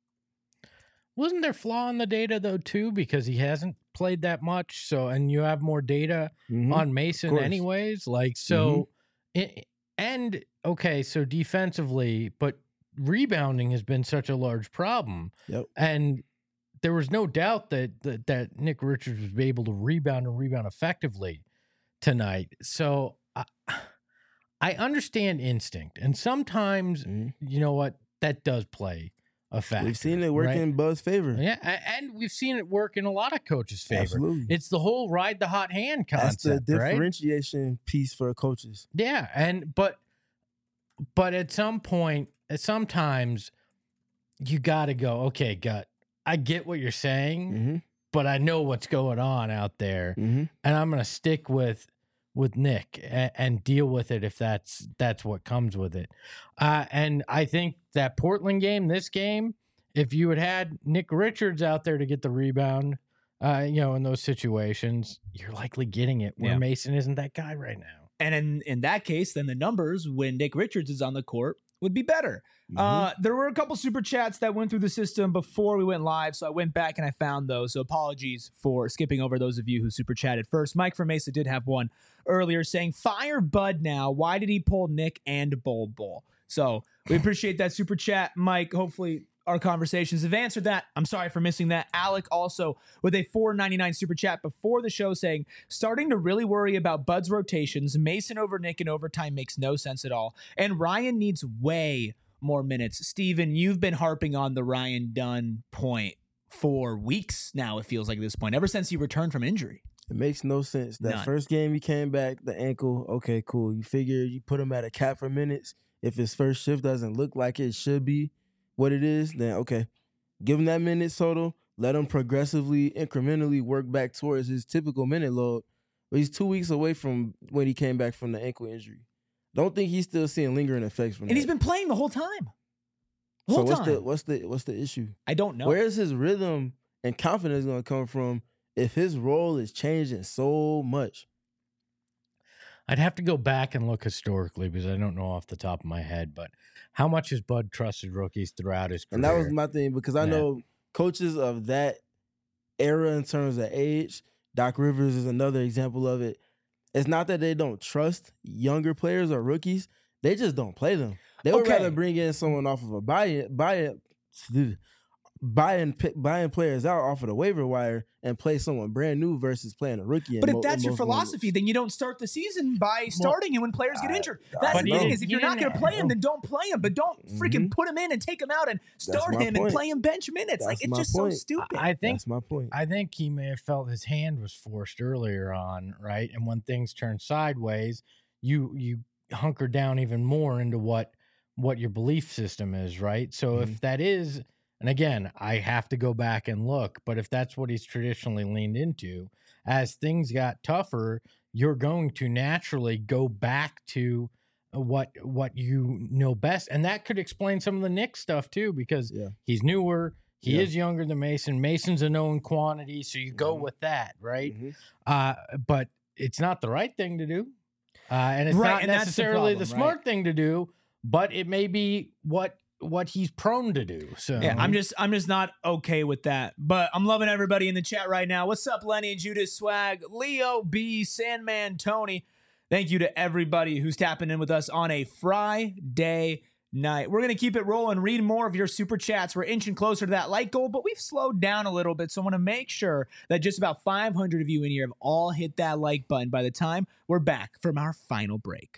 Wasn't there flaw in the data, though, too, because he hasn't played that much, so and you have more data mm-hmm. on Mason anyways? Like, so, mm-hmm. it, and, okay, so defensively, but rebounding has been such a large problem. Yep. And there was no doubt that, that, that Nick Richards was able to rebound and rebound effectively tonight. So, I, I understand instinct, and sometimes mm-hmm. you know what, that does play a factor. We've seen it work right? in Bud's favor, yeah, and we've seen it work in a lot of coaches' favor. Absolutely. It's the whole ride the hot hand concept. That's the differentiation right? piece for coaches. Yeah, and but but at some point, sometimes you got to go. Okay, gut. I get what you're saying, mm-hmm. but I know what's going on out there, mm-hmm. and I'm going to stick with. with Nick and, and deal with it if that's that's what comes with it. Uh, and I think that Portland game, this game, if you had had Nick Richards out there to get the rebound, uh, you know, in those situations, you're likely getting it where yeah. Mason isn't that guy right now. And in, in that case, then the numbers when Nick Richards is on the court would be better. Mm-hmm. Uh, there were a couple super chats that went through the system before we went live, so I went back and I found those. So apologies for skipping over those of you who super chatted first. Mike from Mesa did have one earlier saying, fire Bud now. Why did he pull Nick and Bol Bol? So we appreciate that super chat, Mike. Hopefully our conversations have answered that. I'm sorry for missing that. Alec also with a four ninety-nine super chat before the show saying, starting to really worry about Bud's rotations. Mason over Nick in overtime makes no sense at all. And Ryan needs way more minutes. Steven, you've been harping on the Ryan Dunn point for weeks now, it feels like at this point, ever since he returned from injury. It makes no sense. That None. First game he came back, the ankle, okay, cool. You figure you put him at a cap for minutes. If his first shift doesn't look like it should be what it is, then okay. Give him that minute total. Let him progressively, incrementally work back towards his typical minute load. But he's two weeks away from when he came back from the ankle injury. Don't think he's still seeing lingering effects from and that. And he's been playing the whole time. The so whole what's time. the what's the what's the issue? I don't know. Where's his rhythm and confidence going to come from if his role is changing so much? I'd have to go back and look historically because I don't know off the top of my head, but how much has Bud trusted rookies throughout his career? And that was my thing because I yeah. know coaches of that era in terms of age, Doc Rivers is another example of it. It's not that they don't trust younger players or rookies. They just don't play them. They would okay. rather bring in someone off of a buy buy buying pick, buying players out off of the waiver wire and play someone brand new versus playing a rookie. But in if mo- that's in your most philosophy, moments. then you don't start the season by starting him when players get I- injured. I That's But the you thing didn't- is, if you you're not going to didn't- play him, then don't play him. But don't freaking Mhm. put him in and take him out and start my him and point. play him bench minutes. Like That's it's my just point. so stupid. I think That's my point. I think he may have felt his hand was forced earlier on, right? And when things turn sideways, you you hunker down even more into what what your belief system is, right? So if that is, and again, I have to go back and look, but if that's what he's traditionally leaned into, as things got tougher, you're going to naturally go back to what what you know best, and that could explain some of the Nick stuff too, because Yeah. he's newer. He Yeah. is younger than Mason. Mason's a known quantity, so you go Mhm. with that, right? Mhm. Uh, but it's not the right thing to do, uh, and it's Right, not and that's the necessarily the, problem, smart right? thing to do. But it may be what what he's prone to do. So Yeah, I'm just I'm just not okay with that. But I'm loving everybody in the chat right now. What's up, Lenny, Judas, Swag, Leo, B, Sandman, Tony? Thank you to everybody who's tapping in with us on a Friday night. We're gonna keep it rolling, read more of your super chats. We're inching closer to that like goal, but we've slowed down a little bit. So I want to make sure that just about five hundred of you in here have all hit that like button by the time we're back from our final break.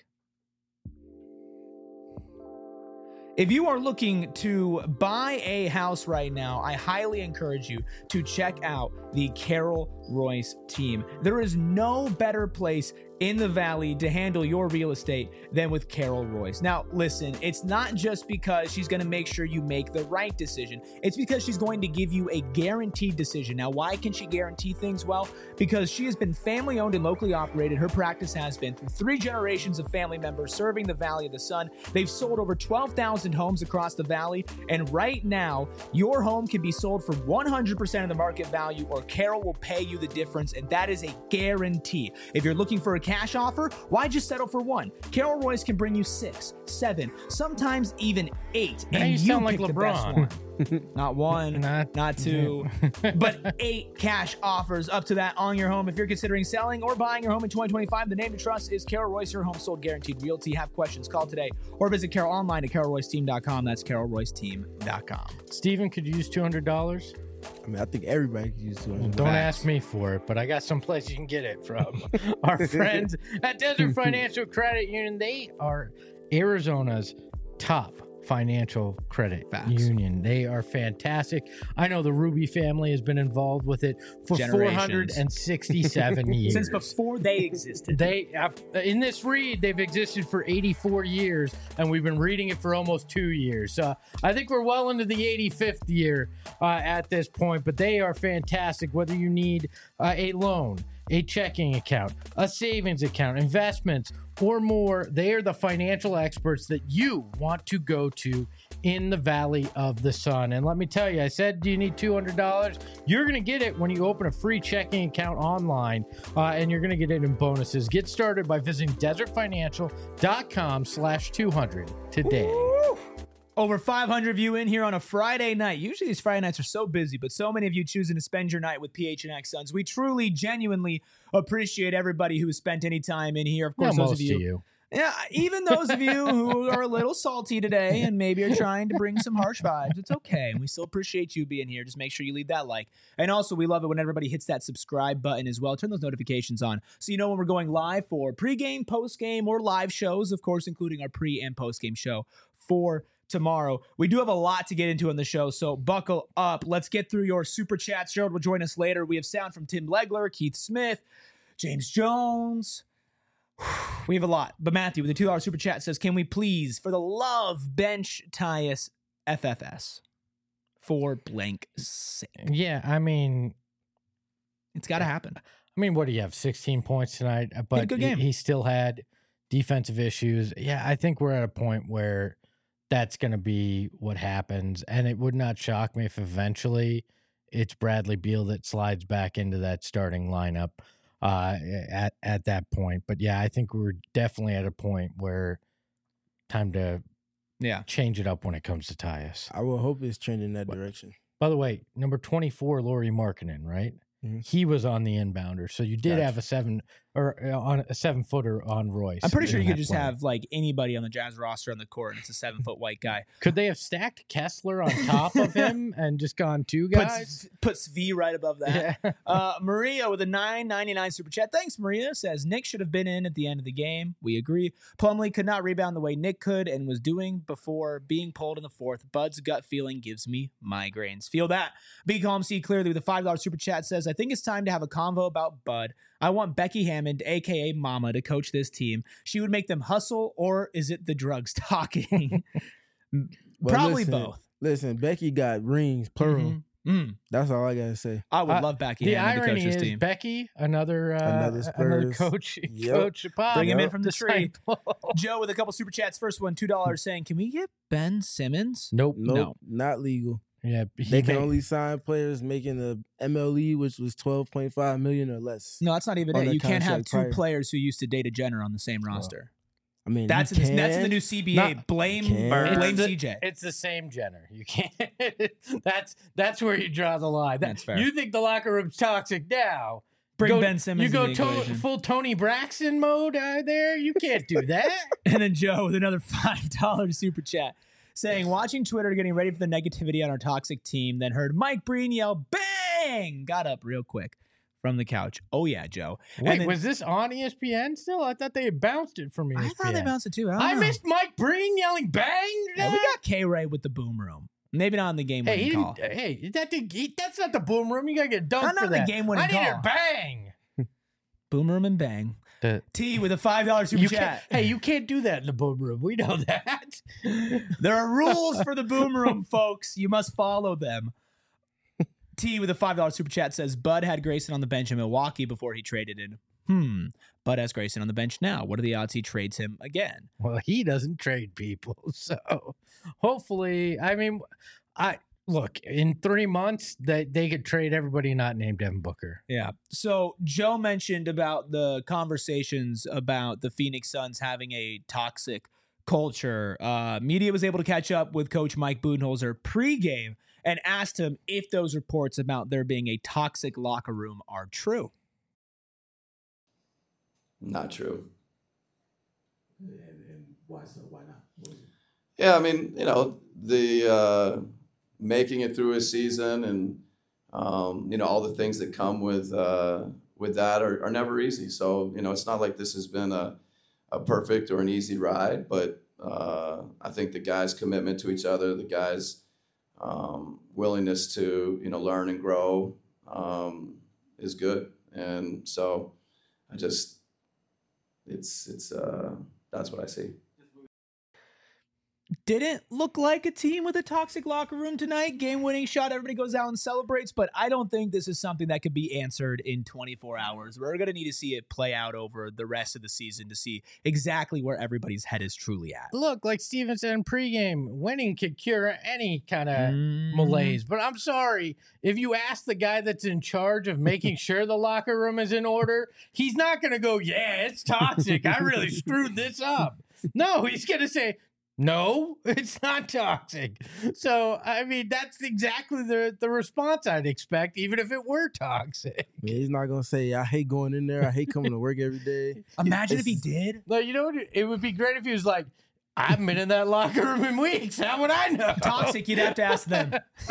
If you are looking to buy a house right now, I highly encourage you to check out the Carol Royce team. There is no better place in the Valley to handle your real estate than with Carol Royce. Now, listen, it's not just because she's going to make sure you make the right decision. It's because she's going to give you a guaranteed decision. Now, why can she guarantee things? Well, because she has been family owned and locally operated. Her practice has been through three generations of family members serving the Valley of the Sun. They've sold over twelve thousand homes across the Valley. And right now, your home can be sold for one hundred percent of the market value, or Carol will pay you the difference. And that is a guarantee. If you're looking for a cash offer, why just settle for one? Carol Royce can bring you six, seven, sometimes even eight. Now and you sound like pick the best LeBron. one. Not one, Not- not two, but eight cash offers up to that on your home. If you're considering selling or buying your home in twenty twenty-five, the name to trust is Carol Royce, your home sold guaranteed realty. Have questions, call today or visit Carol online at carol royce team dot com. That's carol royce team dot com. Steven could use two hundred dollars. I mean, I think everybody could use two Well, hundred. don't Facts. ask me for it, but I got some place you can get it from. Our friends at Desert Financial Credit Union. They are Arizona's top financial credit Facts. union. They are fantastic. I know the Ruby family has been involved with it for four hundred sixty-seven years. Since before they existed. They uh, in this read, they've existed for eighty-four years, and we've been reading it for almost two years. Uh, I think we're well into the eighty-fifth year uh, at this point, but they are fantastic. Whether you need uh, a loan, a checking account, a savings account, investments, or more, they are the financial experts that you want to go to in the Valley of the Sun. And let me tell you, I said, do you need two hundred dollars? You're going to get it when you open a free checking account online, uh, and you're going to get it in bonuses. Get started by visiting desert financial dot com slash two hundred today. Woo! Over five hundred of you in here on a Friday night. Usually these Friday nights are so busy, but so many of you choosing to spend your night with P H N X Suns. We truly, genuinely appreciate everybody who has spent any time in here. Of Yeah, course, those most of you, of you. yeah, even those of you who are a little salty today and maybe are trying to bring some harsh vibes, it's okay. We still appreciate you being here. Just make sure you leave that like. And also, we love it when everybody hits that subscribe button as well. Turn those notifications on so you know when we're going live for pregame, postgame, or live shows, of course, including our pre and postgame show for tomorrow. We do have a lot to get into on the show, so buckle up. Let's get through your super chats. Gerald will join us later. We have sound from Tim Legler, Keith Smith, James Jones. We have a lot. But Matthew with the two dollar super chat says, can we please, for the love, bench Tyus F F S for blank sake? Yeah, I mean, It's got to happen. I mean, what do you have? sixteen points tonight, uh, but good he- game. He, still had defensive issues. Yeah, I think we're at a point where that's going to be what happens, and it would not shock me if eventually it's Bradley Beal that slides back into that starting lineup uh, at at that point. But yeah, I think we're definitely at a point where time to Yeah. change it up when it comes to Tyus. I will hope it's trending that direction. By the way, number twenty-four, Laurie Markkinen, right? Mhm. he was on the inbounder. So you did Gotcha. have a seven or uh, on a seven footer on Royce. I'm pretty sure in you could that just play. have like anybody on the Jazz roster on the court, and it's a seven foot white guy. Could they have stacked Kessler on top of him and just gone two guys? Puts puts V right above that. Yeah. Uh, Maria with a nine ninety-nine super chat. Thanks, Maria. Says Nick should have been in at the end of the game. We agree. Plumlee could not rebound the way Nick could and was doing before being pulled in the fourth. Bud's gut feeling gives me migraines. Feel that. Be calm, see clearly with a five dollar super chat says, I think it's time to have a convo about Bud. I want Becky Hammond, aka Mama, to coach this team. She would make them hustle, or is it the drugs talking? Well, Probably listen, both. Listen, Becky got rings, plural. Mhm. Mm. That's all I gotta say. I would Uh, love Becky The Hammond to coach irony this is team. Becky, another uh, Another another Spurs. coach, Yep. coach Pop. Bring him in Yep. from the tree. Disciple. Joe with a couple super chats. First one, two dollars, saying, "Can we get Ben Simmons?" Nope. Nope, No. not legal. Yeah, he They can made- only sign players making the M L E, which was twelve point five million or less. No, that's not even On it. their You can't have contract two prior. players who used to date a Jenner on the same roster. I mean, That's you in the, that's in the can. new C B A. Not- blame can. or blame It's the- C J. It's the same Jenner. You can't. that's that's where you draw the line. That- That's fair. You think the locker room's toxic now? Bring Go- Ben Simmons. You go into the to- equation. full Tony Braxton mode uh, there. You can't do that. And then Joe with another five dollar super chat saying, watching Twitter, getting ready for the negativity on our toxic team, then heard Mike Breen yell, bang! Got up real quick from the couch. Oh, yeah, Joe. And Wait, then- was this on E S P N still? I thought they had bounced it from E S P N. I thought they bounced it too. I, don't I know. missed Mike Breen yelling bang. Yeah, we got K-Ray with the boom room. Maybe not in the game Hey, winning he call. didn't- hey, that did, he, that's not the boom room. You gotta get dunked Not for on the that. game-winning I needed call. bang. Boom room and bang. The- T with a five dollar super You chat. can't, hey, you can't do that in the boom room. We know that. There are rules for the boom room, folks. You must follow them. T with a five dollar super chat says, Bud had Grayson on the bench in Milwaukee before he traded in. Hmm. Bud has Grayson on the bench now. What are the odds he trades him again? Well, he doesn't trade people, so hopefully, I mean, I look in three months that they could trade everybody not named Devin Booker. Yeah. So Joe mentioned about the conversations about the Phoenix Suns having a toxic culture. Uh, media was able to catch up with Coach Mike Budenholzer pregame and asked him if those reports about there being a toxic locker room are true. Not true. And, and why so? Why not? What is it? Yeah, I mean, you know, the uh, making it through a season and um, you know all the things that come with uh, with that are, are never easy. So you know, it's not like this has been a a perfect or an easy ride, but uh, I think the guys' commitment to each other, the guys' um, willingness to you know learn and grow um, is good. And so I just it's it's uh, that's what I see. Didn't look like a team with a toxic locker room tonight. Game-winning shot, everybody goes out and celebrates, but I don't think this is something that could be answered in twenty-four hours. We're going to need to see it play out over the rest of the season to see exactly where everybody's head is truly at. Look, like Steven said in pregame, winning could cure any kind of Mm. malaise. But I'm sorry, if you ask the guy that's in charge of making sure the locker room is in order, he's not going to go, yeah, it's toxic. I really screwed this up. No, he's going to say, no, it's not toxic. So, I mean, that's exactly the, the response I'd expect, even if it were toxic. I mean, he's not gonna say, I hate going in there. I hate coming to work every day. Imagine if he It's- did. No, you know what? It would be great if he was like, I haven't been in that locker room in weeks. How would I know? Toxic, you'd have to ask them.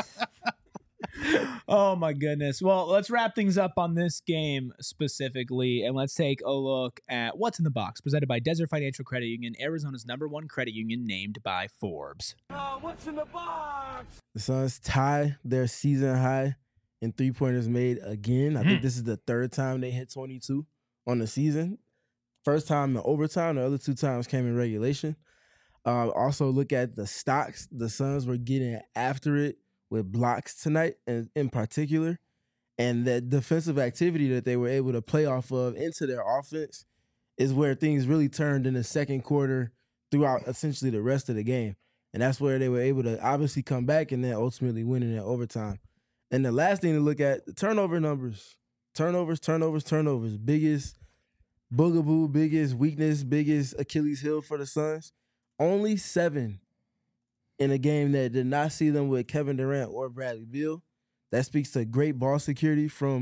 Oh my goodness. Well, let's wrap things up on this game specifically, and let's take a look at what's in the box presented by Desert Financial Credit Union, Arizona's number one credit union, named by Forbes. The Suns tie their season high in three pointers made again. I think this is the third time they hit twenty-two on the season. First time in overtime. The other two times came in regulation. Uh, also, look at the stocks. The Suns were getting after it with blocks tonight, and in particular, and that defensive activity that they were able to play off of into their offense is where things really turned in the second quarter throughout essentially the rest of the game. And that's where they were able to obviously come back and then ultimately win in overtime. And the last thing to look at, the turnover numbers. Turnovers, turnovers, turnovers. Biggest boogaboo, biggest weakness, biggest Achilles heel for the Suns. Only seven in a game that did not see them with Kevin Durant or Bradley Beal. That speaks to great ball security from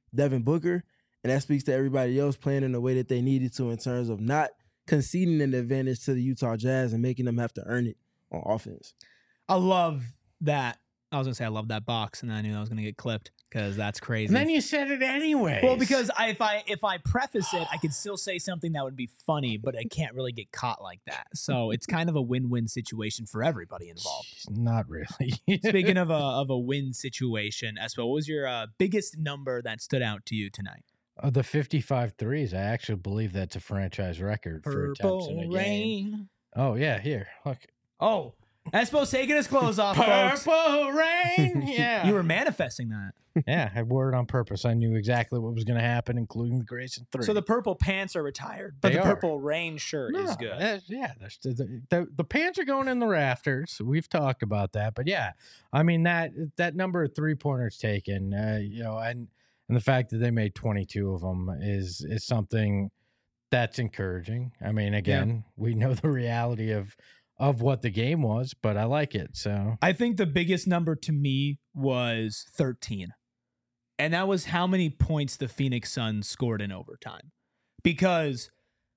Devin Booker, and that speaks to everybody else playing in the way that they needed to in terms of not conceding an advantage to the Utah Jazz and making them have to earn it on offense. I love that. I was going to say I love that box, and then I knew I was going to get clipped because that's crazy. And then you said it anyway. Well, because I, if I if I preface it, I could still say something that would be funny, but I can't really get caught like that. So it's kind of a win-win situation for everybody involved. Not really. Speaking of a of a win situation, Espo, what was your uh, biggest number that stood out to you tonight? Uh, the fifty-five threes. I actually believe that's a franchise record for attempts in a Purple game. rain. Oh yeah, here look. Oh, Espo's taking his clothes off, folks. Purple rain. Yeah, You were manifesting that. yeah. I wore it on purpose. I knew exactly what was going to happen, including the Grayson three. So the purple pants are retired, but They the are. purple rain shirt No, is good. that's- yeah, that's, the, the the pants are going in the rafters. We've talked about that, but yeah, I mean that that number of three pointers taken, uh, you know, and and the fact that they made twenty-two of them is is something that's encouraging. I mean, again, we know the reality of of what the game was, but I like it. So I think the biggest number to me was thirteen. And that was how many points the Phoenix Suns scored in overtime. Because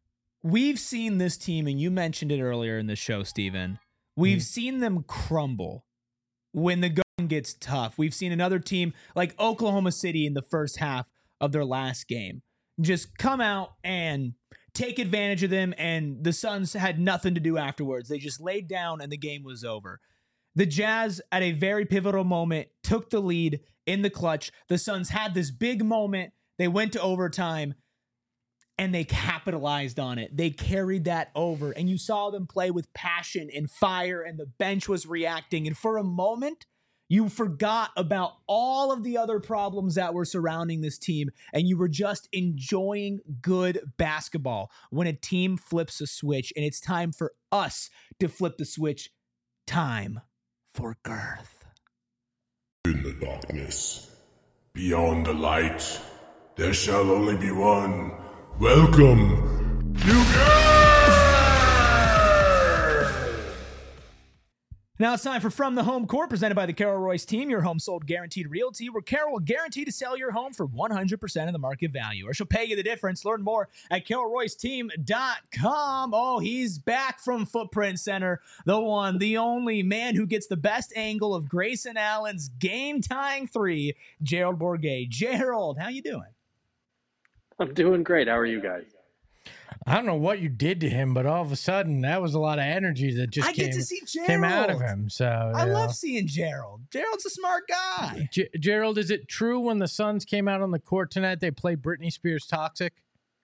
we've seen this team, and you mentioned it earlier in the show, Steven. We've mm. seen them crumble when the going gets tough. We've seen another team like Oklahoma City in the first half of their last game just come out and take advantage of them, and the Suns had nothing to do afterwards. They just laid down, and the game was over. The Jazz, at a very pivotal moment, took the lead in the clutch. The Suns had this big moment. They went to overtime, and they capitalized on it. They carried that over, and you saw them play with passion and fire, and the bench was reacting. And for a moment, you forgot about all of the other problems that were surrounding this team, and you were just enjoying good basketball. When a team flips a switch, and it's time for us to flip the switch, time for girth. In the darkness, beyond the light, there shall only be one. Welcome to Girth! Now it's time for From the Home Court, presented by the Carol Royce team, your home sold guaranteed realty, where Carol will guarantee to sell your home for one hundred percent of the market value, or she'll pay you the difference. Learn more at carol royce team dot com. Oh, he's back from Footprint Center, the one, the only man who gets the best angle of Grayson Allen's game-tying three, Gerald Bourguet. Gerald, how you doing? I'm doing great. How are you guys? I don't know what you did to him, but all of a sudden, that was a lot of energy that just I came, get to see Gerald. came out of him. So I you love know. seeing Gerald. Gerald's a smart guy. G- Gerald, is it true when the Suns came out on the court tonight, they played Britney Spears Toxic?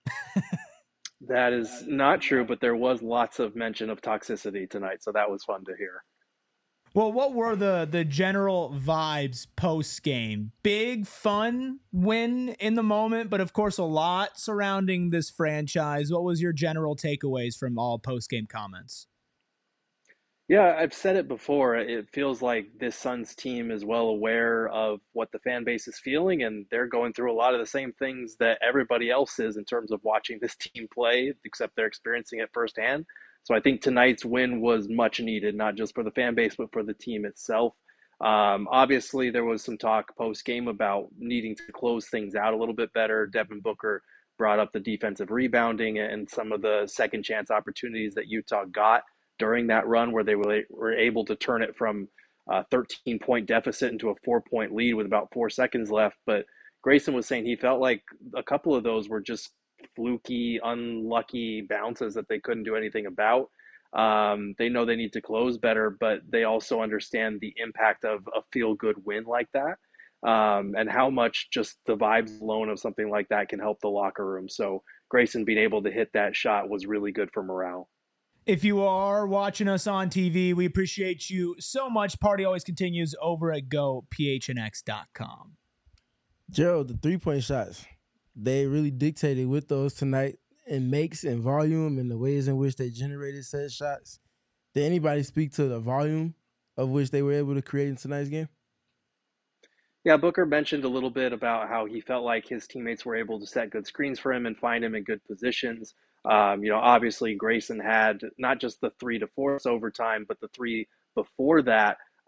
That is not true, but there was lots of mention of toxicity tonight, so that was fun to hear. Well, what were the the general vibes post game? Big fun win in the moment, but of course a lot surrounding this franchise. What was your general takeaways from all post game comments? Yeah, I've said it before. It feels like this Suns team is well aware of what the fan base is feeling, and they're going through a lot of the same things that everybody else is in terms of watching this team play, except they're experiencing it firsthand. So I think tonight's win was much needed, not just for the fan base, but for the team itself. Um, obviously, there was some talk post-game about needing to close things out a little bit better. Devin Booker brought up the defensive rebounding and some of the second chance opportunities that Utah got during that run, where they were, were able to turn it from a thirteen-point deficit into a four-point lead with about four seconds left. But Grayson was saying he felt like a couple of those were just fluky, unlucky bounces that they couldn't do anything about. Um, they know they need to close better, but they also understand the impact of a feel-good win like that, um, and how much just the vibes alone of something like that can help the locker room. So Grayson being able to hit that shot was really good for morale. If you are watching us on T V, we appreciate you so much. Party always continues over at go p h n x dot com. Gerald, the three-point shots, they really dictated with those tonight in makes and volume and the ways in which they generated said shots. Did anybody speak to the volume of which they were able to create in tonight's game? Yeah, Booker mentioned a little bit about how he felt like his teammates were able to set good screens for him and find him in good positions. Um, you know, obviously Grayson had not just the three to force overtime, but the three before that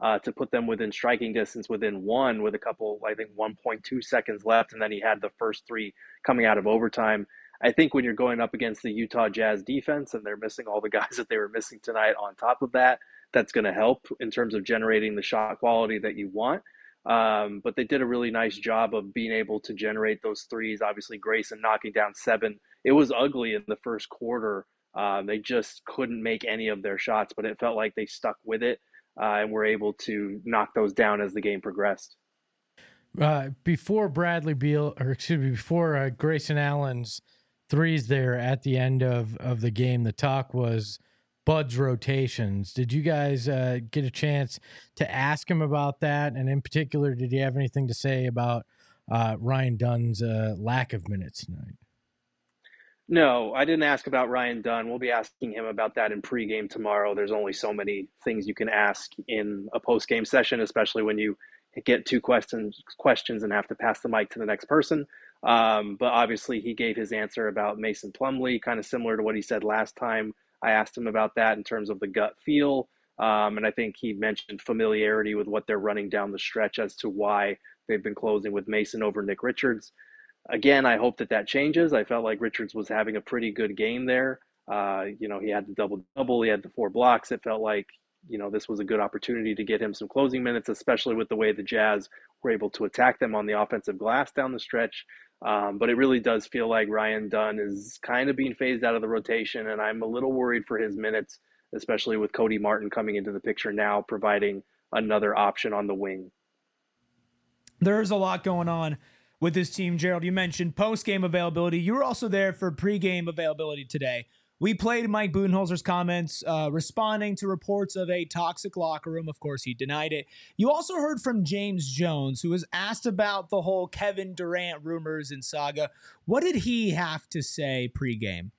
uh, to put them within striking distance within one with a couple, I think one point two seconds left. And then he had the first three coming out of overtime. I think when you're going up against the Utah Jazz defense and they're missing all the guys that they were missing tonight on top of that, that's going to help in terms of generating the shot quality that you want. Um, but they did a really nice job of being able to generate those threes. Obviously, Grayson knocking down seven. It was ugly in the first quarter. Um, they just couldn't make any of their shots, but it felt like they stuck with it uh, and were able to knock those down as the game progressed. Uh, before Bradley Beal, or excuse me, before uh, Grayson Allen's threes there at the end of, of the game, the talk was Bud's rotations. Did you guys uh, get a chance to ask him about that? And in particular, did he have anything to say about uh, Ryan Dunn's uh, lack of minutes tonight? No, I didn't ask about Ryan Dunn. We'll be asking him about that in pregame tomorrow. There's only so many things you can ask in a postgame session, especially when you get two questions questions and have to pass the mic to the next person. Um, but obviously, he gave his answer about Mason Plumlee, kind of similar to what he said last time. I asked him about that in terms of the gut feel. Um, and I think he mentioned familiarity with what they're running down the stretch as to why they've been closing with Mason over Nick Richards. Again, I hope that that changes. I felt like Richards was having a pretty good game there. Uh, you know, he had the double-double. He had the four blocks. It felt like, you know, this was a good opportunity to get him some closing minutes, especially with the way the Jazz were able to attack them on the offensive glass down the stretch. Um, but it really does feel like Ryan Dunn is kind of being phased out of the rotation, and I'm a little worried for his minutes, especially with Cody Martin coming into the picture now, providing another option on the wing. There's a lot going on with this team, Gerald. You mentioned post-game availability. You were also there for pre-game availability today. We played Mike Budenholzer's comments uh, responding to reports of a toxic locker room. Of course, he denied it. You also heard from James Jones, who was asked about the whole Kevin Durant rumors and saga. What did he have to say pre-game?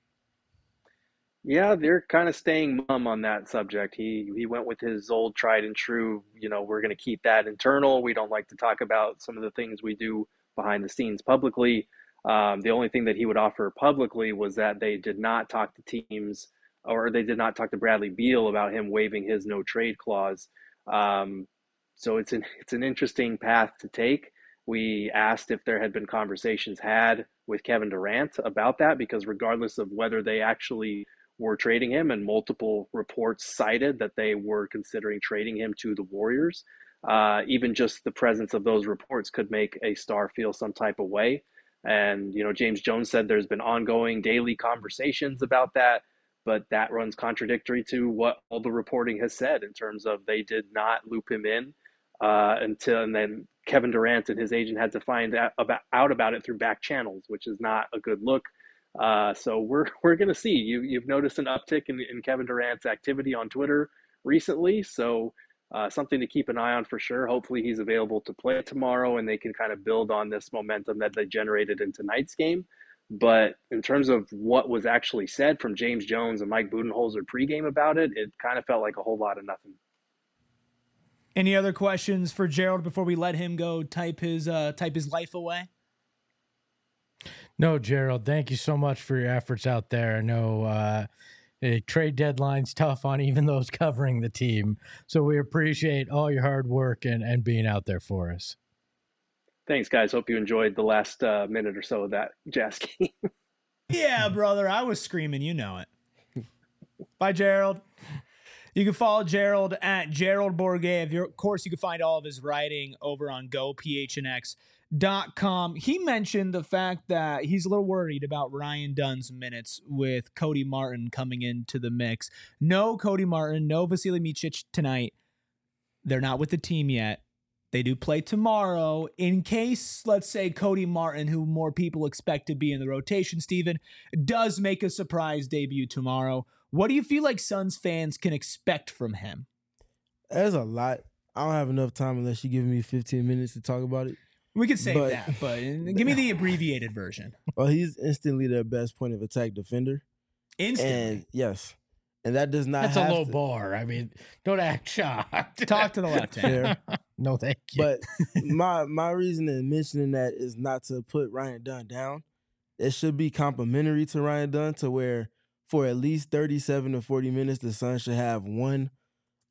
Yeah, they're kind of staying mum on that subject. He he went with his old tried and true, you know, we're going to keep that internal. We don't like to talk about some of the things we do behind the scenes publicly. Um, the only thing that he would offer publicly was that they did not talk to teams, or they did not talk to Bradley Beal about him waiving his no trade clause. Um, so it's an it's an interesting path to take. We asked if there had been conversations had with Kevin Durant about that, because regardless of whether they actually were trading him, and multiple reports cited that they were considering trading him to the Warriors, uh, even just the presence of those reports could make a star feel some type of way. And, you know, James Jones said there's been ongoing daily conversations about that, but that runs contradictory to what all the reporting has said in terms of they did not loop him in uh, until, and then Kevin Durant and his agent had to find out about, out about it through back channels, which is not a good look. Uh, so we're we're going to see. You, you've noticed an uptick in, in Kevin Durant's activity on Twitter recently, so Uh, something to keep an eye on for sure. Hopefully he's available to play tomorrow and they can kind of build on this momentum that they generated in tonight's game. But in terms of what was actually said from James Jones and Mike Budenholzer pregame about it, it kind of felt like a whole lot of nothing. Any other questions for Gerald before we let him go type his uh, type his life away? No, Gerald, thank you so much for your efforts out there. I know uh, a trade deadline's tough on even those covering the team. So we appreciate all your hard work and, and being out there for us. Thanks, guys. Hope you enjoyed the last uh, minute or so of that Jazz game. Yeah, brother. I was screaming. You know it. Bye, Gerald. You can follow Gerald at Gerald Bourguet. Of course, you can find all of his writing over on go p h n x dot com. He mentioned the fact that he's a little worried about Ryan Dunn's minutes with Cody Martin coming into the mix. No Cody Martin, no Vasilij Micic tonight. They're not with the team yet. They do play tomorrow. In case, let's say, Cody Martin, who more people expect to be in the rotation, Steven, does make a surprise debut tomorrow, what do you feel like Suns fans can expect from him? There's a lot. I don't have enough time unless you give me fifteen minutes to talk about it. We could save but, that, but give me the abbreviated version. Well, he's instantly their best point of attack defender. Instantly? And yes. And that does not That's have a low to, bar. I mean, don't act shocked. Talk to the left hand. No, thank you. But my my reason in mentioning that is not to put Ryan Dunn down. It should be complimentary to Ryan Dunn, to where for at least thirty-seven to forty minutes, the Suns should have one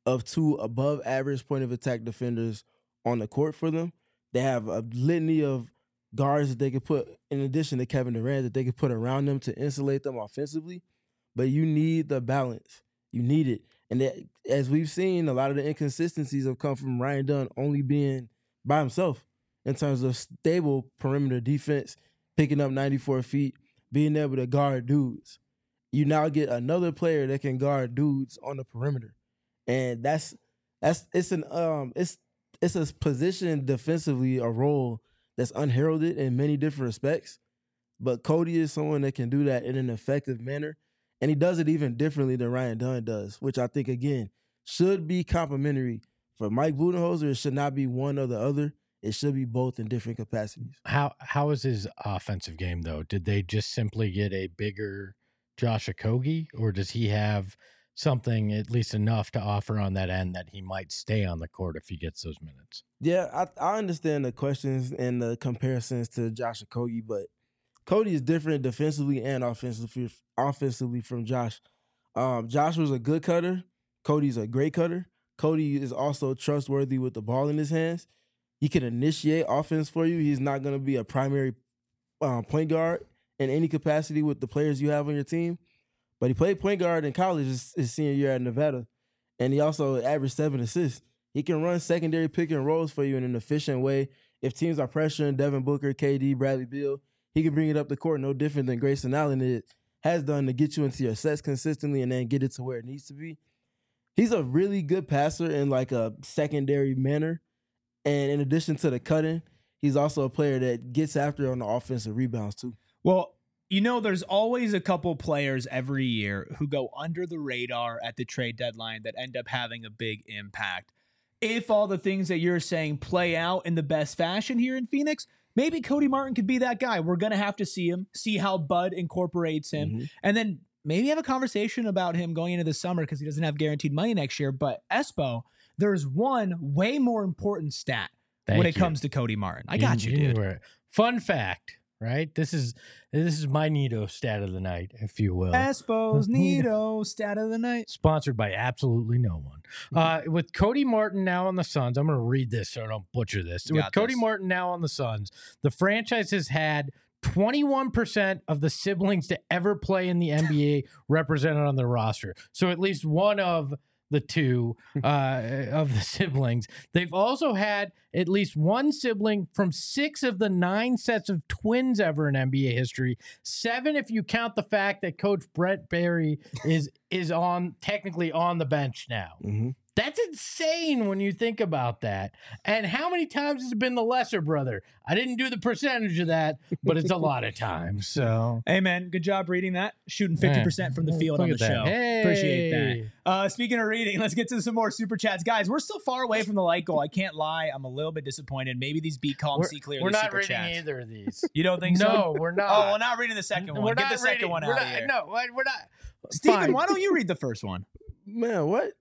of two above average point of attack defenders on the court for them. They have a litany of guards that they could put, in addition to Kevin Durant, that they could put around them to insulate them offensively. But you need the balance. You need it. And that, as we've seen, a lot of the inconsistencies have come from Ryan Dunn only being by himself in terms of stable perimeter defense, picking up ninety-four feet, being able to guard dudes. You now get another player that can guard dudes on the perimeter. And that's that's it's an um it's it's a position defensively, a role that's unheralded in many different respects. But Cody is someone that can do that in an effective manner. And he does it even differently than Ryan Dunn does, which I think, again, should be complimentary. For Mike Budenholzer, it should not be one or the other. It should be both in different capacities. How How is his offensive game, though? Did they just simply get a bigger Josh Okogie, or does he have something, at least enough, to offer on that end that he might stay on the court if he gets those minutes? Yeah, I, I understand the questions and the comparisons to Josh Okogie, but Cody is different defensively and offensively offensively from Josh. Um, Josh was a good cutter. Cody's a great cutter. Cody is also trustworthy with the ball in his hands. He can initiate offense for you. He's not going to be a primary um, point guard in any capacity with the players you have on your team. But he played point guard in college his, his senior year at Nevada, and he also averaged seven assists. He can run secondary pick and rolls for you in an efficient way. If teams are pressuring Devin Booker, K D, Bradley Beal, he can bring it up the court no different than Grayson Allen it has done to get you into your sets consistently and then get it to where it needs to be. He's a really good passer in like a secondary manner. And in addition to the cutting, he's also a player that gets after on the offensive rebounds too. Well, you know, there's always a couple players every year who go under the radar at the trade deadline that end up having a big impact. If all the things that you're saying play out in the best fashion here in Phoenix, maybe Cody Martin could be that guy. We're going to have to see him, see how Bud incorporates him, mm-hmm. and then maybe have a conversation about him going into the summer because he doesn't have guaranteed money next year. But Espo, there's one way more important stat Thank when it you. comes to Cody Martin. I got you, you dude. Fun fact, right? This is this is my Nito stat of the night, if you will. Espo's Nito stat of the night. Sponsored by absolutely no one. Uh, with Cody Martin now on the Suns, I'm going to read this so I don't butcher this. Got with Cody this. Martin now on the Suns, the franchise has had twenty-one percent of the siblings to ever play in the N B A represented on their roster. So at least one of the two uh, of the siblings. They've also had at least one sibling from six of the nine sets of twins ever in N B A history. Seven if you count the fact that Coach Brett Barry is is on technically on the bench now. Mm-hmm. That's insane when you think about that. And how many times has it been the lesser brother? I didn't do the percentage of that, but it's a lot of times. So, hey, man, good job reading that. Shooting fifty percent from the field on the show. Hey. Appreciate that. Uh, speaking of reading, let's get to some more super chats. Guys, we're still far away from the like goal. I can't lie. I'm a little bit disappointed. Maybe these Be Calm, we're, See Clearly We're not super reading chats. either of these. You don't think so? No, we're not. Oh, we're not reading the second one. We're Get not the second reading, one we're out not, of here. No, we're not. Steven, Fine. why don't you read the first one? Man, what?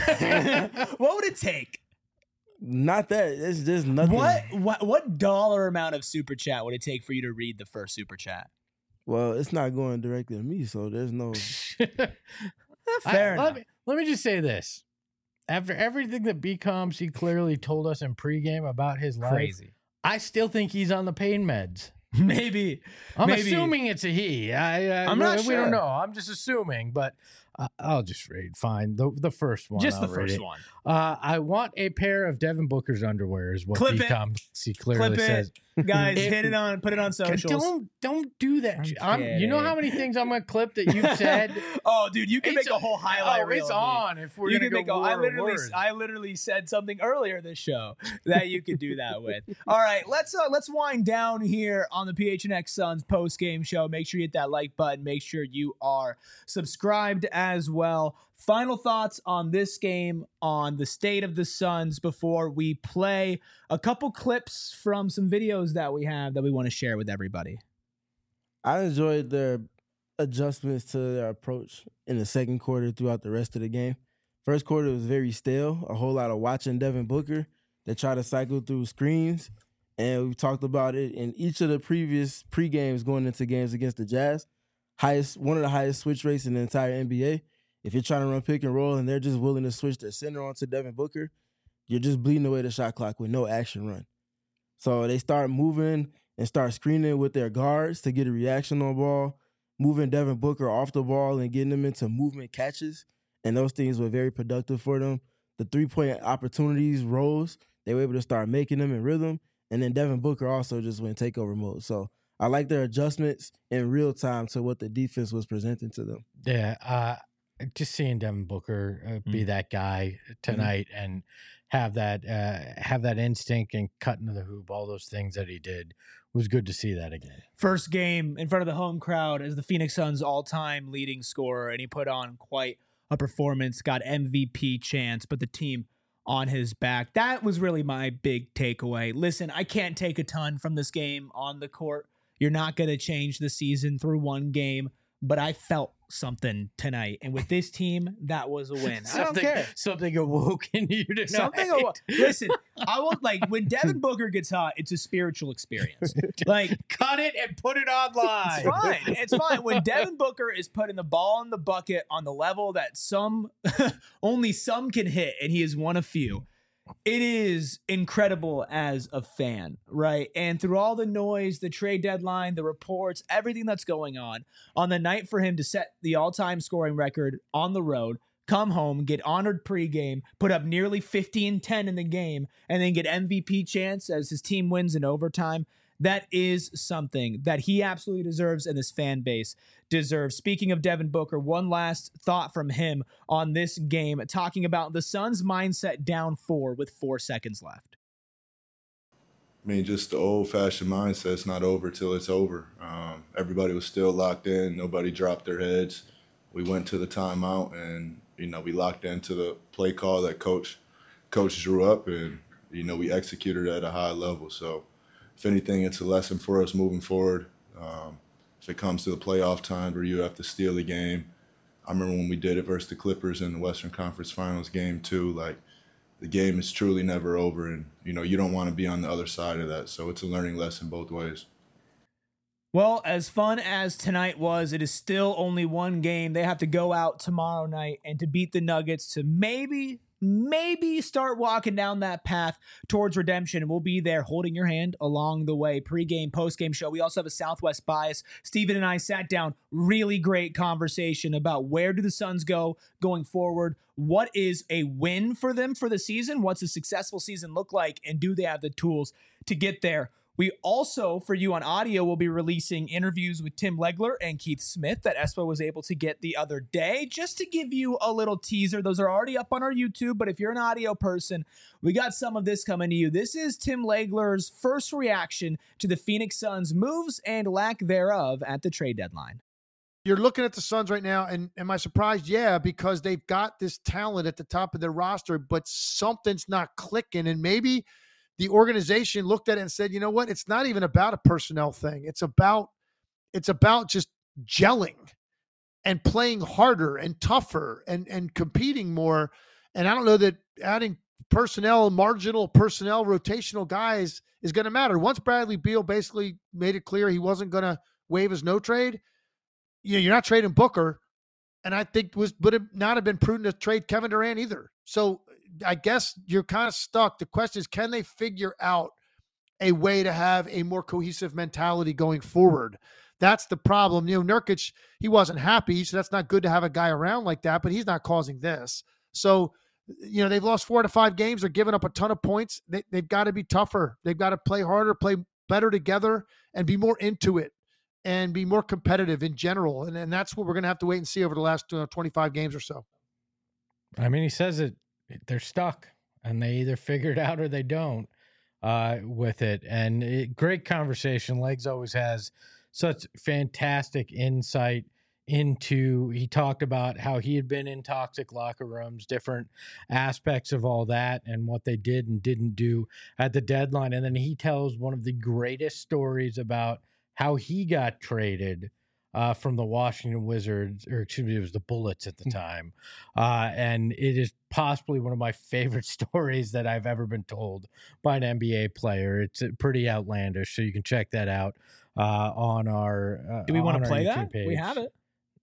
What would it take? Not that. It's just nothing. What, what what dollar amount of super chat would it take for you to read the first super chat? Well, it's not going directly to me, so there's no. Fair I, enough. Let me, let me just say this. After everything that B COMs he clearly told us in pregame about his life, Crazy. I still think he's on the pain meds. Maybe. I'm Maybe. assuming it's a he. I, I, I'm not we sure. don't know. I'm just assuming, but uh, I'll just read. Fine. The the first one. Just I'll the read first it. one. Uh, I want a pair of Devin Booker's underwear is what Clip it. B COMs he clearly Clip it. says. Guys, If- hit it on, put it on socials. Don't don't do that. I'm I'm, you know how many things I'm gonna clip that you've said. Oh, dude, you can It's make a whole highlight oh, reel. it's of me. on. If we're You gonna can go make a, I word literally, word. I literally said something earlier this show that you could do that with. All right, let's uh, let's wind down here on the P H N X Suns post game show. Make sure you hit that like button. Make sure you are subscribed as well. Final thoughts on this game, on the state of the Suns before we play a couple clips from some videos that we have that we want to share with everybody. I enjoyed their adjustments to their approach in the second quarter throughout the rest of the game. First quarter was very stale, a whole lot of watching Devin Booker. They try to cycle through screens, and we talked about it in each of the previous pre-games going into games against the Jazz. Highest, one of the highest switch rates in the entire N B A. If you're trying to run pick and roll and they're just willing to switch their center onto Devin Booker, you're just bleeding away the shot clock with no action run. So they start moving and start screening with their guards to get a reaction on ball, moving Devin Booker off the ball and getting them into movement catches. And those things were very productive for them. The three-point opportunities rose. They were able to start making them in rhythm. And then Devin Booker also just went takeover mode. So I like their adjustments in real time to what the defense was presenting to them. Yeah, uh, just seeing Devin Booker uh, be mm. that guy tonight mm. and have that uh, have that instinct and cut into the hoop, all those things that he did, was good to see that again. First game in front of the home crowd as the Phoenix Suns all-time leading scorer, and he put on quite a performance, got M V P chance, but the team on his back. That was really my big takeaway. Listen, I can't take a ton from this game on the court. You're not going to change the season through one game, but I felt something tonight. And with this team, that was a win. I don't care. Something awoke in you tonight. Something awoke. Listen, I will, like, when Devin Booker gets hot, it's a spiritual experience. Like, cut it and put it online. It's fine. It's fine. When Devin Booker is putting the ball in the bucket on the level that some, only some can hit, and he is one of few, it is incredible as a fan, right? And through all the noise, the trade deadline, the reports, everything that's going on, on the night for him to set the all-time scoring record on the road, come home, get honored pregame, put up nearly fifteen ten in the game, and then get M V P chance as his team wins in overtime, that is something that he absolutely deserves and this fan base deserves. Speaking of Devin Booker, one last thought from him on this game, talking about the Suns' mindset down four with four seconds left. I mean, just the old-fashioned mindset, it's not over till it's over. Um, everybody was still locked in. Nobody dropped their heads. We went to the timeout, and, you know, we locked into the play call that Coach, Coach drew up, and, you know, we executed at a high level. So, if anything, it's a lesson for us moving forward. Um, if it comes to the playoff time where you have to steal a game, I remember when we did it versus the Clippers in the Western Conference Finals game too. Like, the game is truly never over, and you know you don't want to be on the other side of that. So it's a learning lesson both ways. Well, as fun as tonight was, it is still only one game. They have to go out tomorrow night and to beat the Nuggets to maybe. Maybe start walking down that path towards redemption, and we'll be there holding your hand along the way. Pre-game, post-game show. We also have a Southwest bias. Steven and I sat down, really great conversation about where do the Suns go going forward? What is a win for them for the season? What's a successful season look like? And do they have the tools to get there? We also, for you on audio, will be releasing interviews with Tim Legler and Keith Smith that Espo was able to get the other day, just to give you a little teaser. Those are already up on our YouTube, but if you're an audio person, we got some of this coming to you. This is Tim Legler's first reaction to the Phoenix Suns' moves and lack thereof at the trade deadline. You're looking at the Suns right now, and am I surprised? Yeah, because they've got this talent at the top of their roster, but something's not clicking, and maybe – the organization looked at it and said, you know what? It's not even about a personnel thing. It's about, it's about just gelling and playing harder and tougher and, and competing more. And I don't know that adding personnel, marginal personnel, rotational guys is going to matter. Once Bradley Beal basically made it clear he wasn't going to waive his no trade, you know, you're not trading Booker. And I think was would it not have been prudent to trade Kevin Durant either. So I guess you're kind of stuck. The question is, can they figure out a way to have a more cohesive mentality going forward? That's the problem. You know, Nurkic, he wasn't happy, so that's not good to have a guy around like that, but he's not causing this. So, you know, they've lost four to five games. They're giving up a ton of points. They, they've got to be tougher. They've got to play harder, play better together, and be more into it and be more competitive in general. And, and that's what we're going to have to wait and see over the last uh, twenty-five games or so. I mean, he says it. They're stuck, and they either figure it out or they don't uh, with it. And it, great conversation. Legs always has such fantastic insight into, he talked about how he had been in toxic locker rooms, different aspects of all that and what they did and didn't do at the deadline. And then he tells one of the greatest stories about how he got traded Uh, from the Washington Wizards, or excuse me, it was the Bullets at the time. Uh, and it is possibly one of my favorite stories that I've ever been told by an N B A player. It's pretty outlandish, so you can check that out uh, on our uh, Do we want to play YouTube that? page. We have it.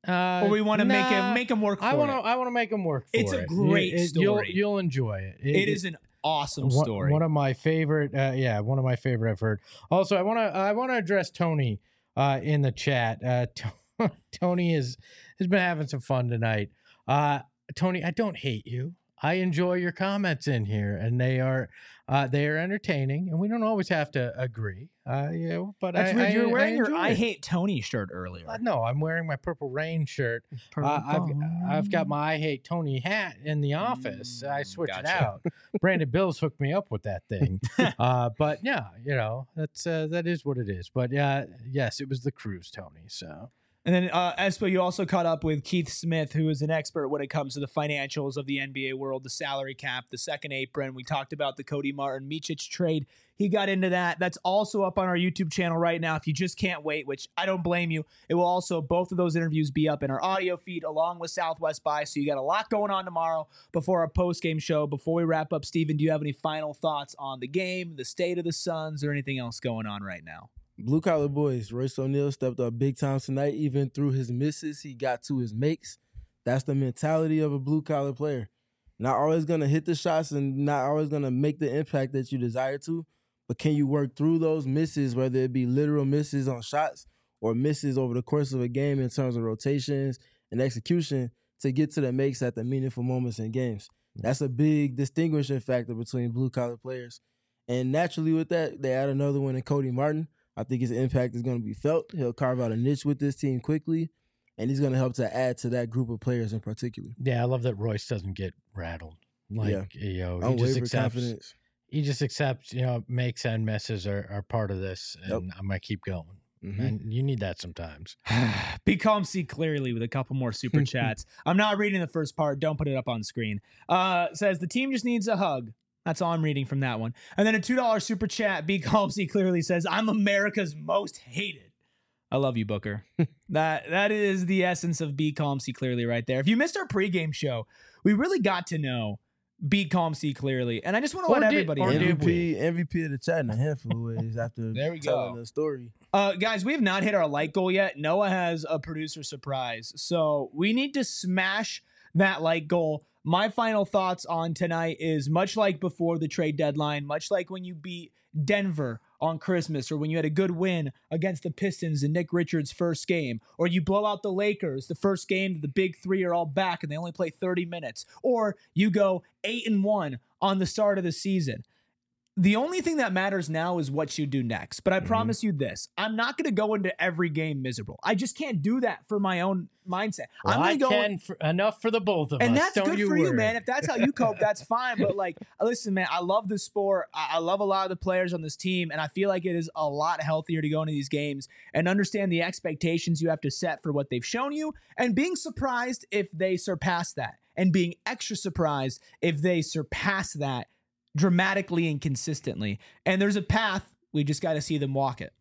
Uh, or we want to make nah, him make him work for I want to. it? I want to make him work. For It's a it. great It- it- story. You'll, you'll enjoy it. It is an awesome one, story. One of my favorite. Uh, yeah, one of my favorite I've heard. Also, I want to. I want to address Tony uh, in the chat. Uh, T- Tony is has been having some fun tonight. Uh, Tony, I don't hate you. I enjoy your comments in here, and they are uh, they are entertaining, and we don't always have to agree. Uh, you know, but That's I, weird. I, You're wearing I your enjoy I it. Hate Tony shirt earlier. Uh, no, I'm wearing my Purple Rain shirt. Uh, I've I've got my I Hate Tony hat in the office. I switched it gotcha. out. Brandon Bills hooked me up with that thing. uh, but yeah, you know that's uh, that is what it is. But uh, yes, it was the cruise, Tony. So. And then, uh, Espo, you also caught up with Keith Smith, who is an expert when it comes to the financials of the N B A world, the salary cap, the second apron. We talked about the Cody Martin Micic trade. He got into that. That's also up on our YouTube channel right now. If you just can't wait, which I don't blame you, it will also, both of those interviews be up in our audio feed along with Southwest By. So you got a lot going on tomorrow before our post-game show. Before we wrap up, Steven, do you have any final thoughts on the game, the state of the Suns, or anything else going on right now? Blue collar boys. Royce O'Neal stepped up big time tonight. Even through his misses, he got to his makes. That's the mentality of a blue collar player. Not always gonna hit the shots and not always gonna make the impact that you desire to, but can you work through those misses, whether it be literal misses on shots or misses over the course of a game in terms of rotations and execution to get to the makes at the meaningful moments in games. That's a big distinguishing factor between blue collar players. And naturally with that, they add another one in Cody Martin. I think his impact is going to be felt. He'll carve out a niche with this team quickly, and he's going to help to add to that group of players in particular. Yeah, I love that Royce doesn't get rattled. Like, Yeah. you know, he Unwavering just accepts. confidence. He just accepts, you know, makes and misses are, are part of this, and Yep. I'm gonna keep going. Mhm. And you need that sometimes. Be calm, see clearly with a couple more super chats. I'm not reading the first part. Don't put it up on screen. Uh, says the team just needs a hug. That's all I'm reading from that one. And then a two dollar super chat. Be calm, see clearly says I'm America's most hated. I love you, Booker. that that is the essence of Be Calm, See Clearly right there. If you missed our pregame show, we really got to know Be Calm, See Clearly. And I just want to Or let did- everybody or know. did M V P, M V P of the chat in a handful of ways after There we telling go. the story. Uh, guys, we have not hit our like goal yet. Noah has a producer surprise. So we need to smash that like goal. My final thoughts on tonight is much like before the trade deadline, much like when you beat Denver on Christmas, or when you had a good win against the Pistons in Nick Richards' first game, or you blow out the Lakers the first game that the big three are all back and they only play thirty minutes, or you go eight and one on the start of the season. The only thing that matters now is what you do next. But I Mhm. promise you this, I'm not going to go into every game miserable. I just can't do that for my own mindset. Well, I'm I going to go can for, enough for the both of and us. that's Don't good you for you, worry. man. If that's how you cope, that's fine. But like, listen, man, I love the sport. I, I love a lot of the players on this team, and I feel like it is a lot healthier to go into these games and understand the expectations you have to set for what they've shown you, and being surprised if they surpass that, and being extra surprised if they surpass that dramatically and consistently. And there's a path. We just got to see them walk it.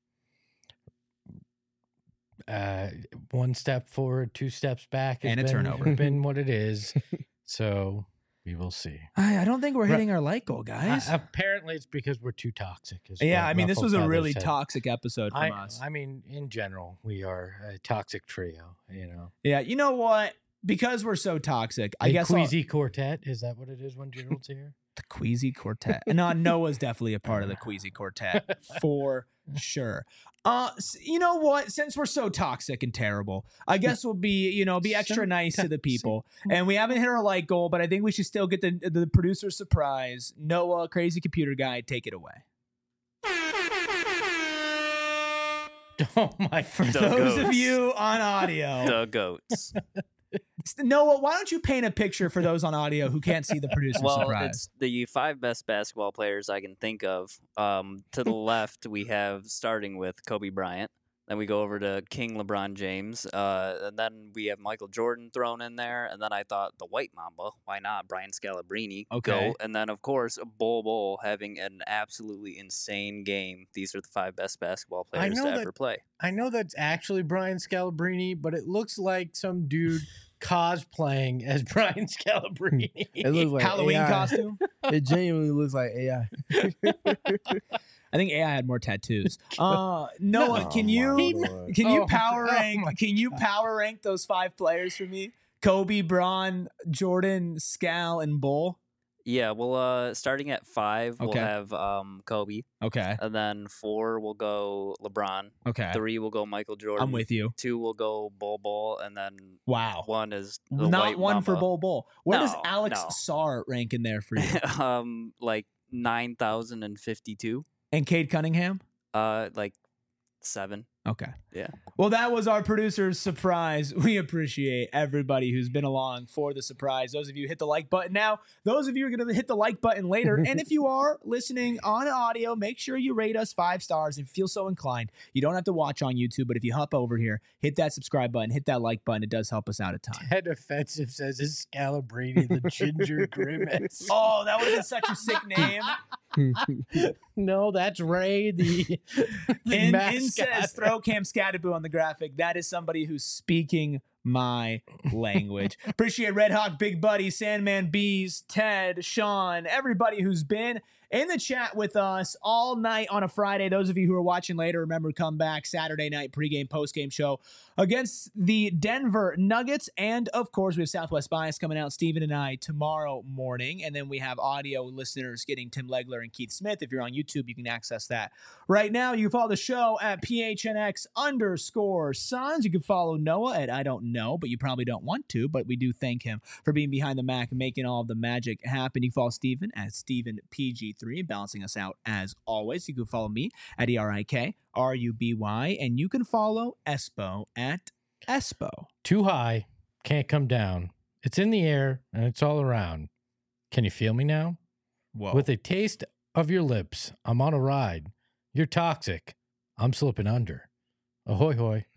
Uh, one step forward, two steps back, has And a been, turnover. been what it is. So we will see. I, I don't think we're Right. hitting our like goal, guys. Uh, apparently, it's because we're too toxic. is yeah, what I mean, this Ruffled was a Feathers really said. toxic episode from I, us. I mean, in general, we are a toxic trio. You know, Yeah, you know what? Because we're so toxic, I a guess I'll- queasy quartet. Is that what it is when Gerald's here? the Queasy Quartet. No, Noah's definitely a part of the Queasy Quartet for sure. Uh, s- you know what? Since we're so toxic and terrible, I guess we'll be, you know, be extra So nice to the toxic. people. And we haven't hit our like goal, but I think we should still get the the producer surprise. Noah, crazy computer guy, take it away. Oh my! For The those of goats. you on audio, The goats. Noah, why don't you paint a picture for those on audio who can't see the producer Well, surprise? it's the five best basketball players I can think of. Um, to the left, we have starting with Kobe Bryant. Then we go over to King LeBron James. Uh, and then we have Michael Jordan thrown in there. And then I thought the White Mamba, why not? Brian Scalabrine. Okay. Go. And then, of course, Bol Bol having an absolutely insane game. These are the five best basketball I players know to that- ever play. I know that's actually Brian Scalabrine, but it looks like some dude cosplaying as Brian Scalabrine. It looks like Halloween A I. costume. It genuinely looks like A I. I think A I had more tattoos. Uh, Noah, No. can Oh, you my Lord. can you Oh, power oh rank? my Can you power rank those five players for me? Kobe, Braun, Jordan, Scal, and Bull. Yeah, well, uh, starting at five, we'll Okay. have um Kobe, Okay. and then four will go LeBron. Okay. Three will go Michael Jordan. I'm with you. Two will go Bol Bol, and then Wow. one is the Not White one for Mamba. Bull Bull. Where does No, Alex no. Sarr rank in there for you? um, like nine thousand and fifty-two. And Cade Cunningham? Uh, like seven. Okay. Yeah. Well, that was our producer's surprise. We appreciate everybody who's been along for the surprise. Those of you who hit the like button now, those of you are going to hit the like button later. And if you are listening on audio, make sure you rate us five stars and feel so inclined. You don't have to watch on YouTube, but if you hop over here, hit that subscribe button, hit that like button. It does help us out a ton. Ted Offensive says is Scalabrine the Ginger Grimace. Oh, that would have been such a sick name. No, that's Ray, the, the In, in mascot. says throw Cam Scattaboo on the graphic. That is somebody who's speaking my language. Appreciate Red Hawk, Big Buddy, Sandman Bees, Ted, Sean, everybody who's been in the chat with us all night on a Friday. Those of you who are watching later, remember, come back Saturday night pregame, postgame show against the Denver Nuggets. And of course, we have Southwest Bias coming out, Steven and I, tomorrow morning. And then we have audio listeners getting Tim Legler and Keith Smith. If you're on YouTube, you can access that right now. You can follow the show at P H N X underscore Suns. You can follow Noah at I don't know, but you probably don't want to, but we do thank him for being behind the Mac and making all of the magic happen. You can follow Steven at Steven P G three, balancing us out as always. You can follow me at E R I K R U B Y, and you can follow Espo at Espo. Too high, can't come down. It's in the air and it's all around. Can you feel me now? Whoa. With a taste of your lips, I'm on a ride. You're toxic. I'm slipping under. Ahoy, hoy.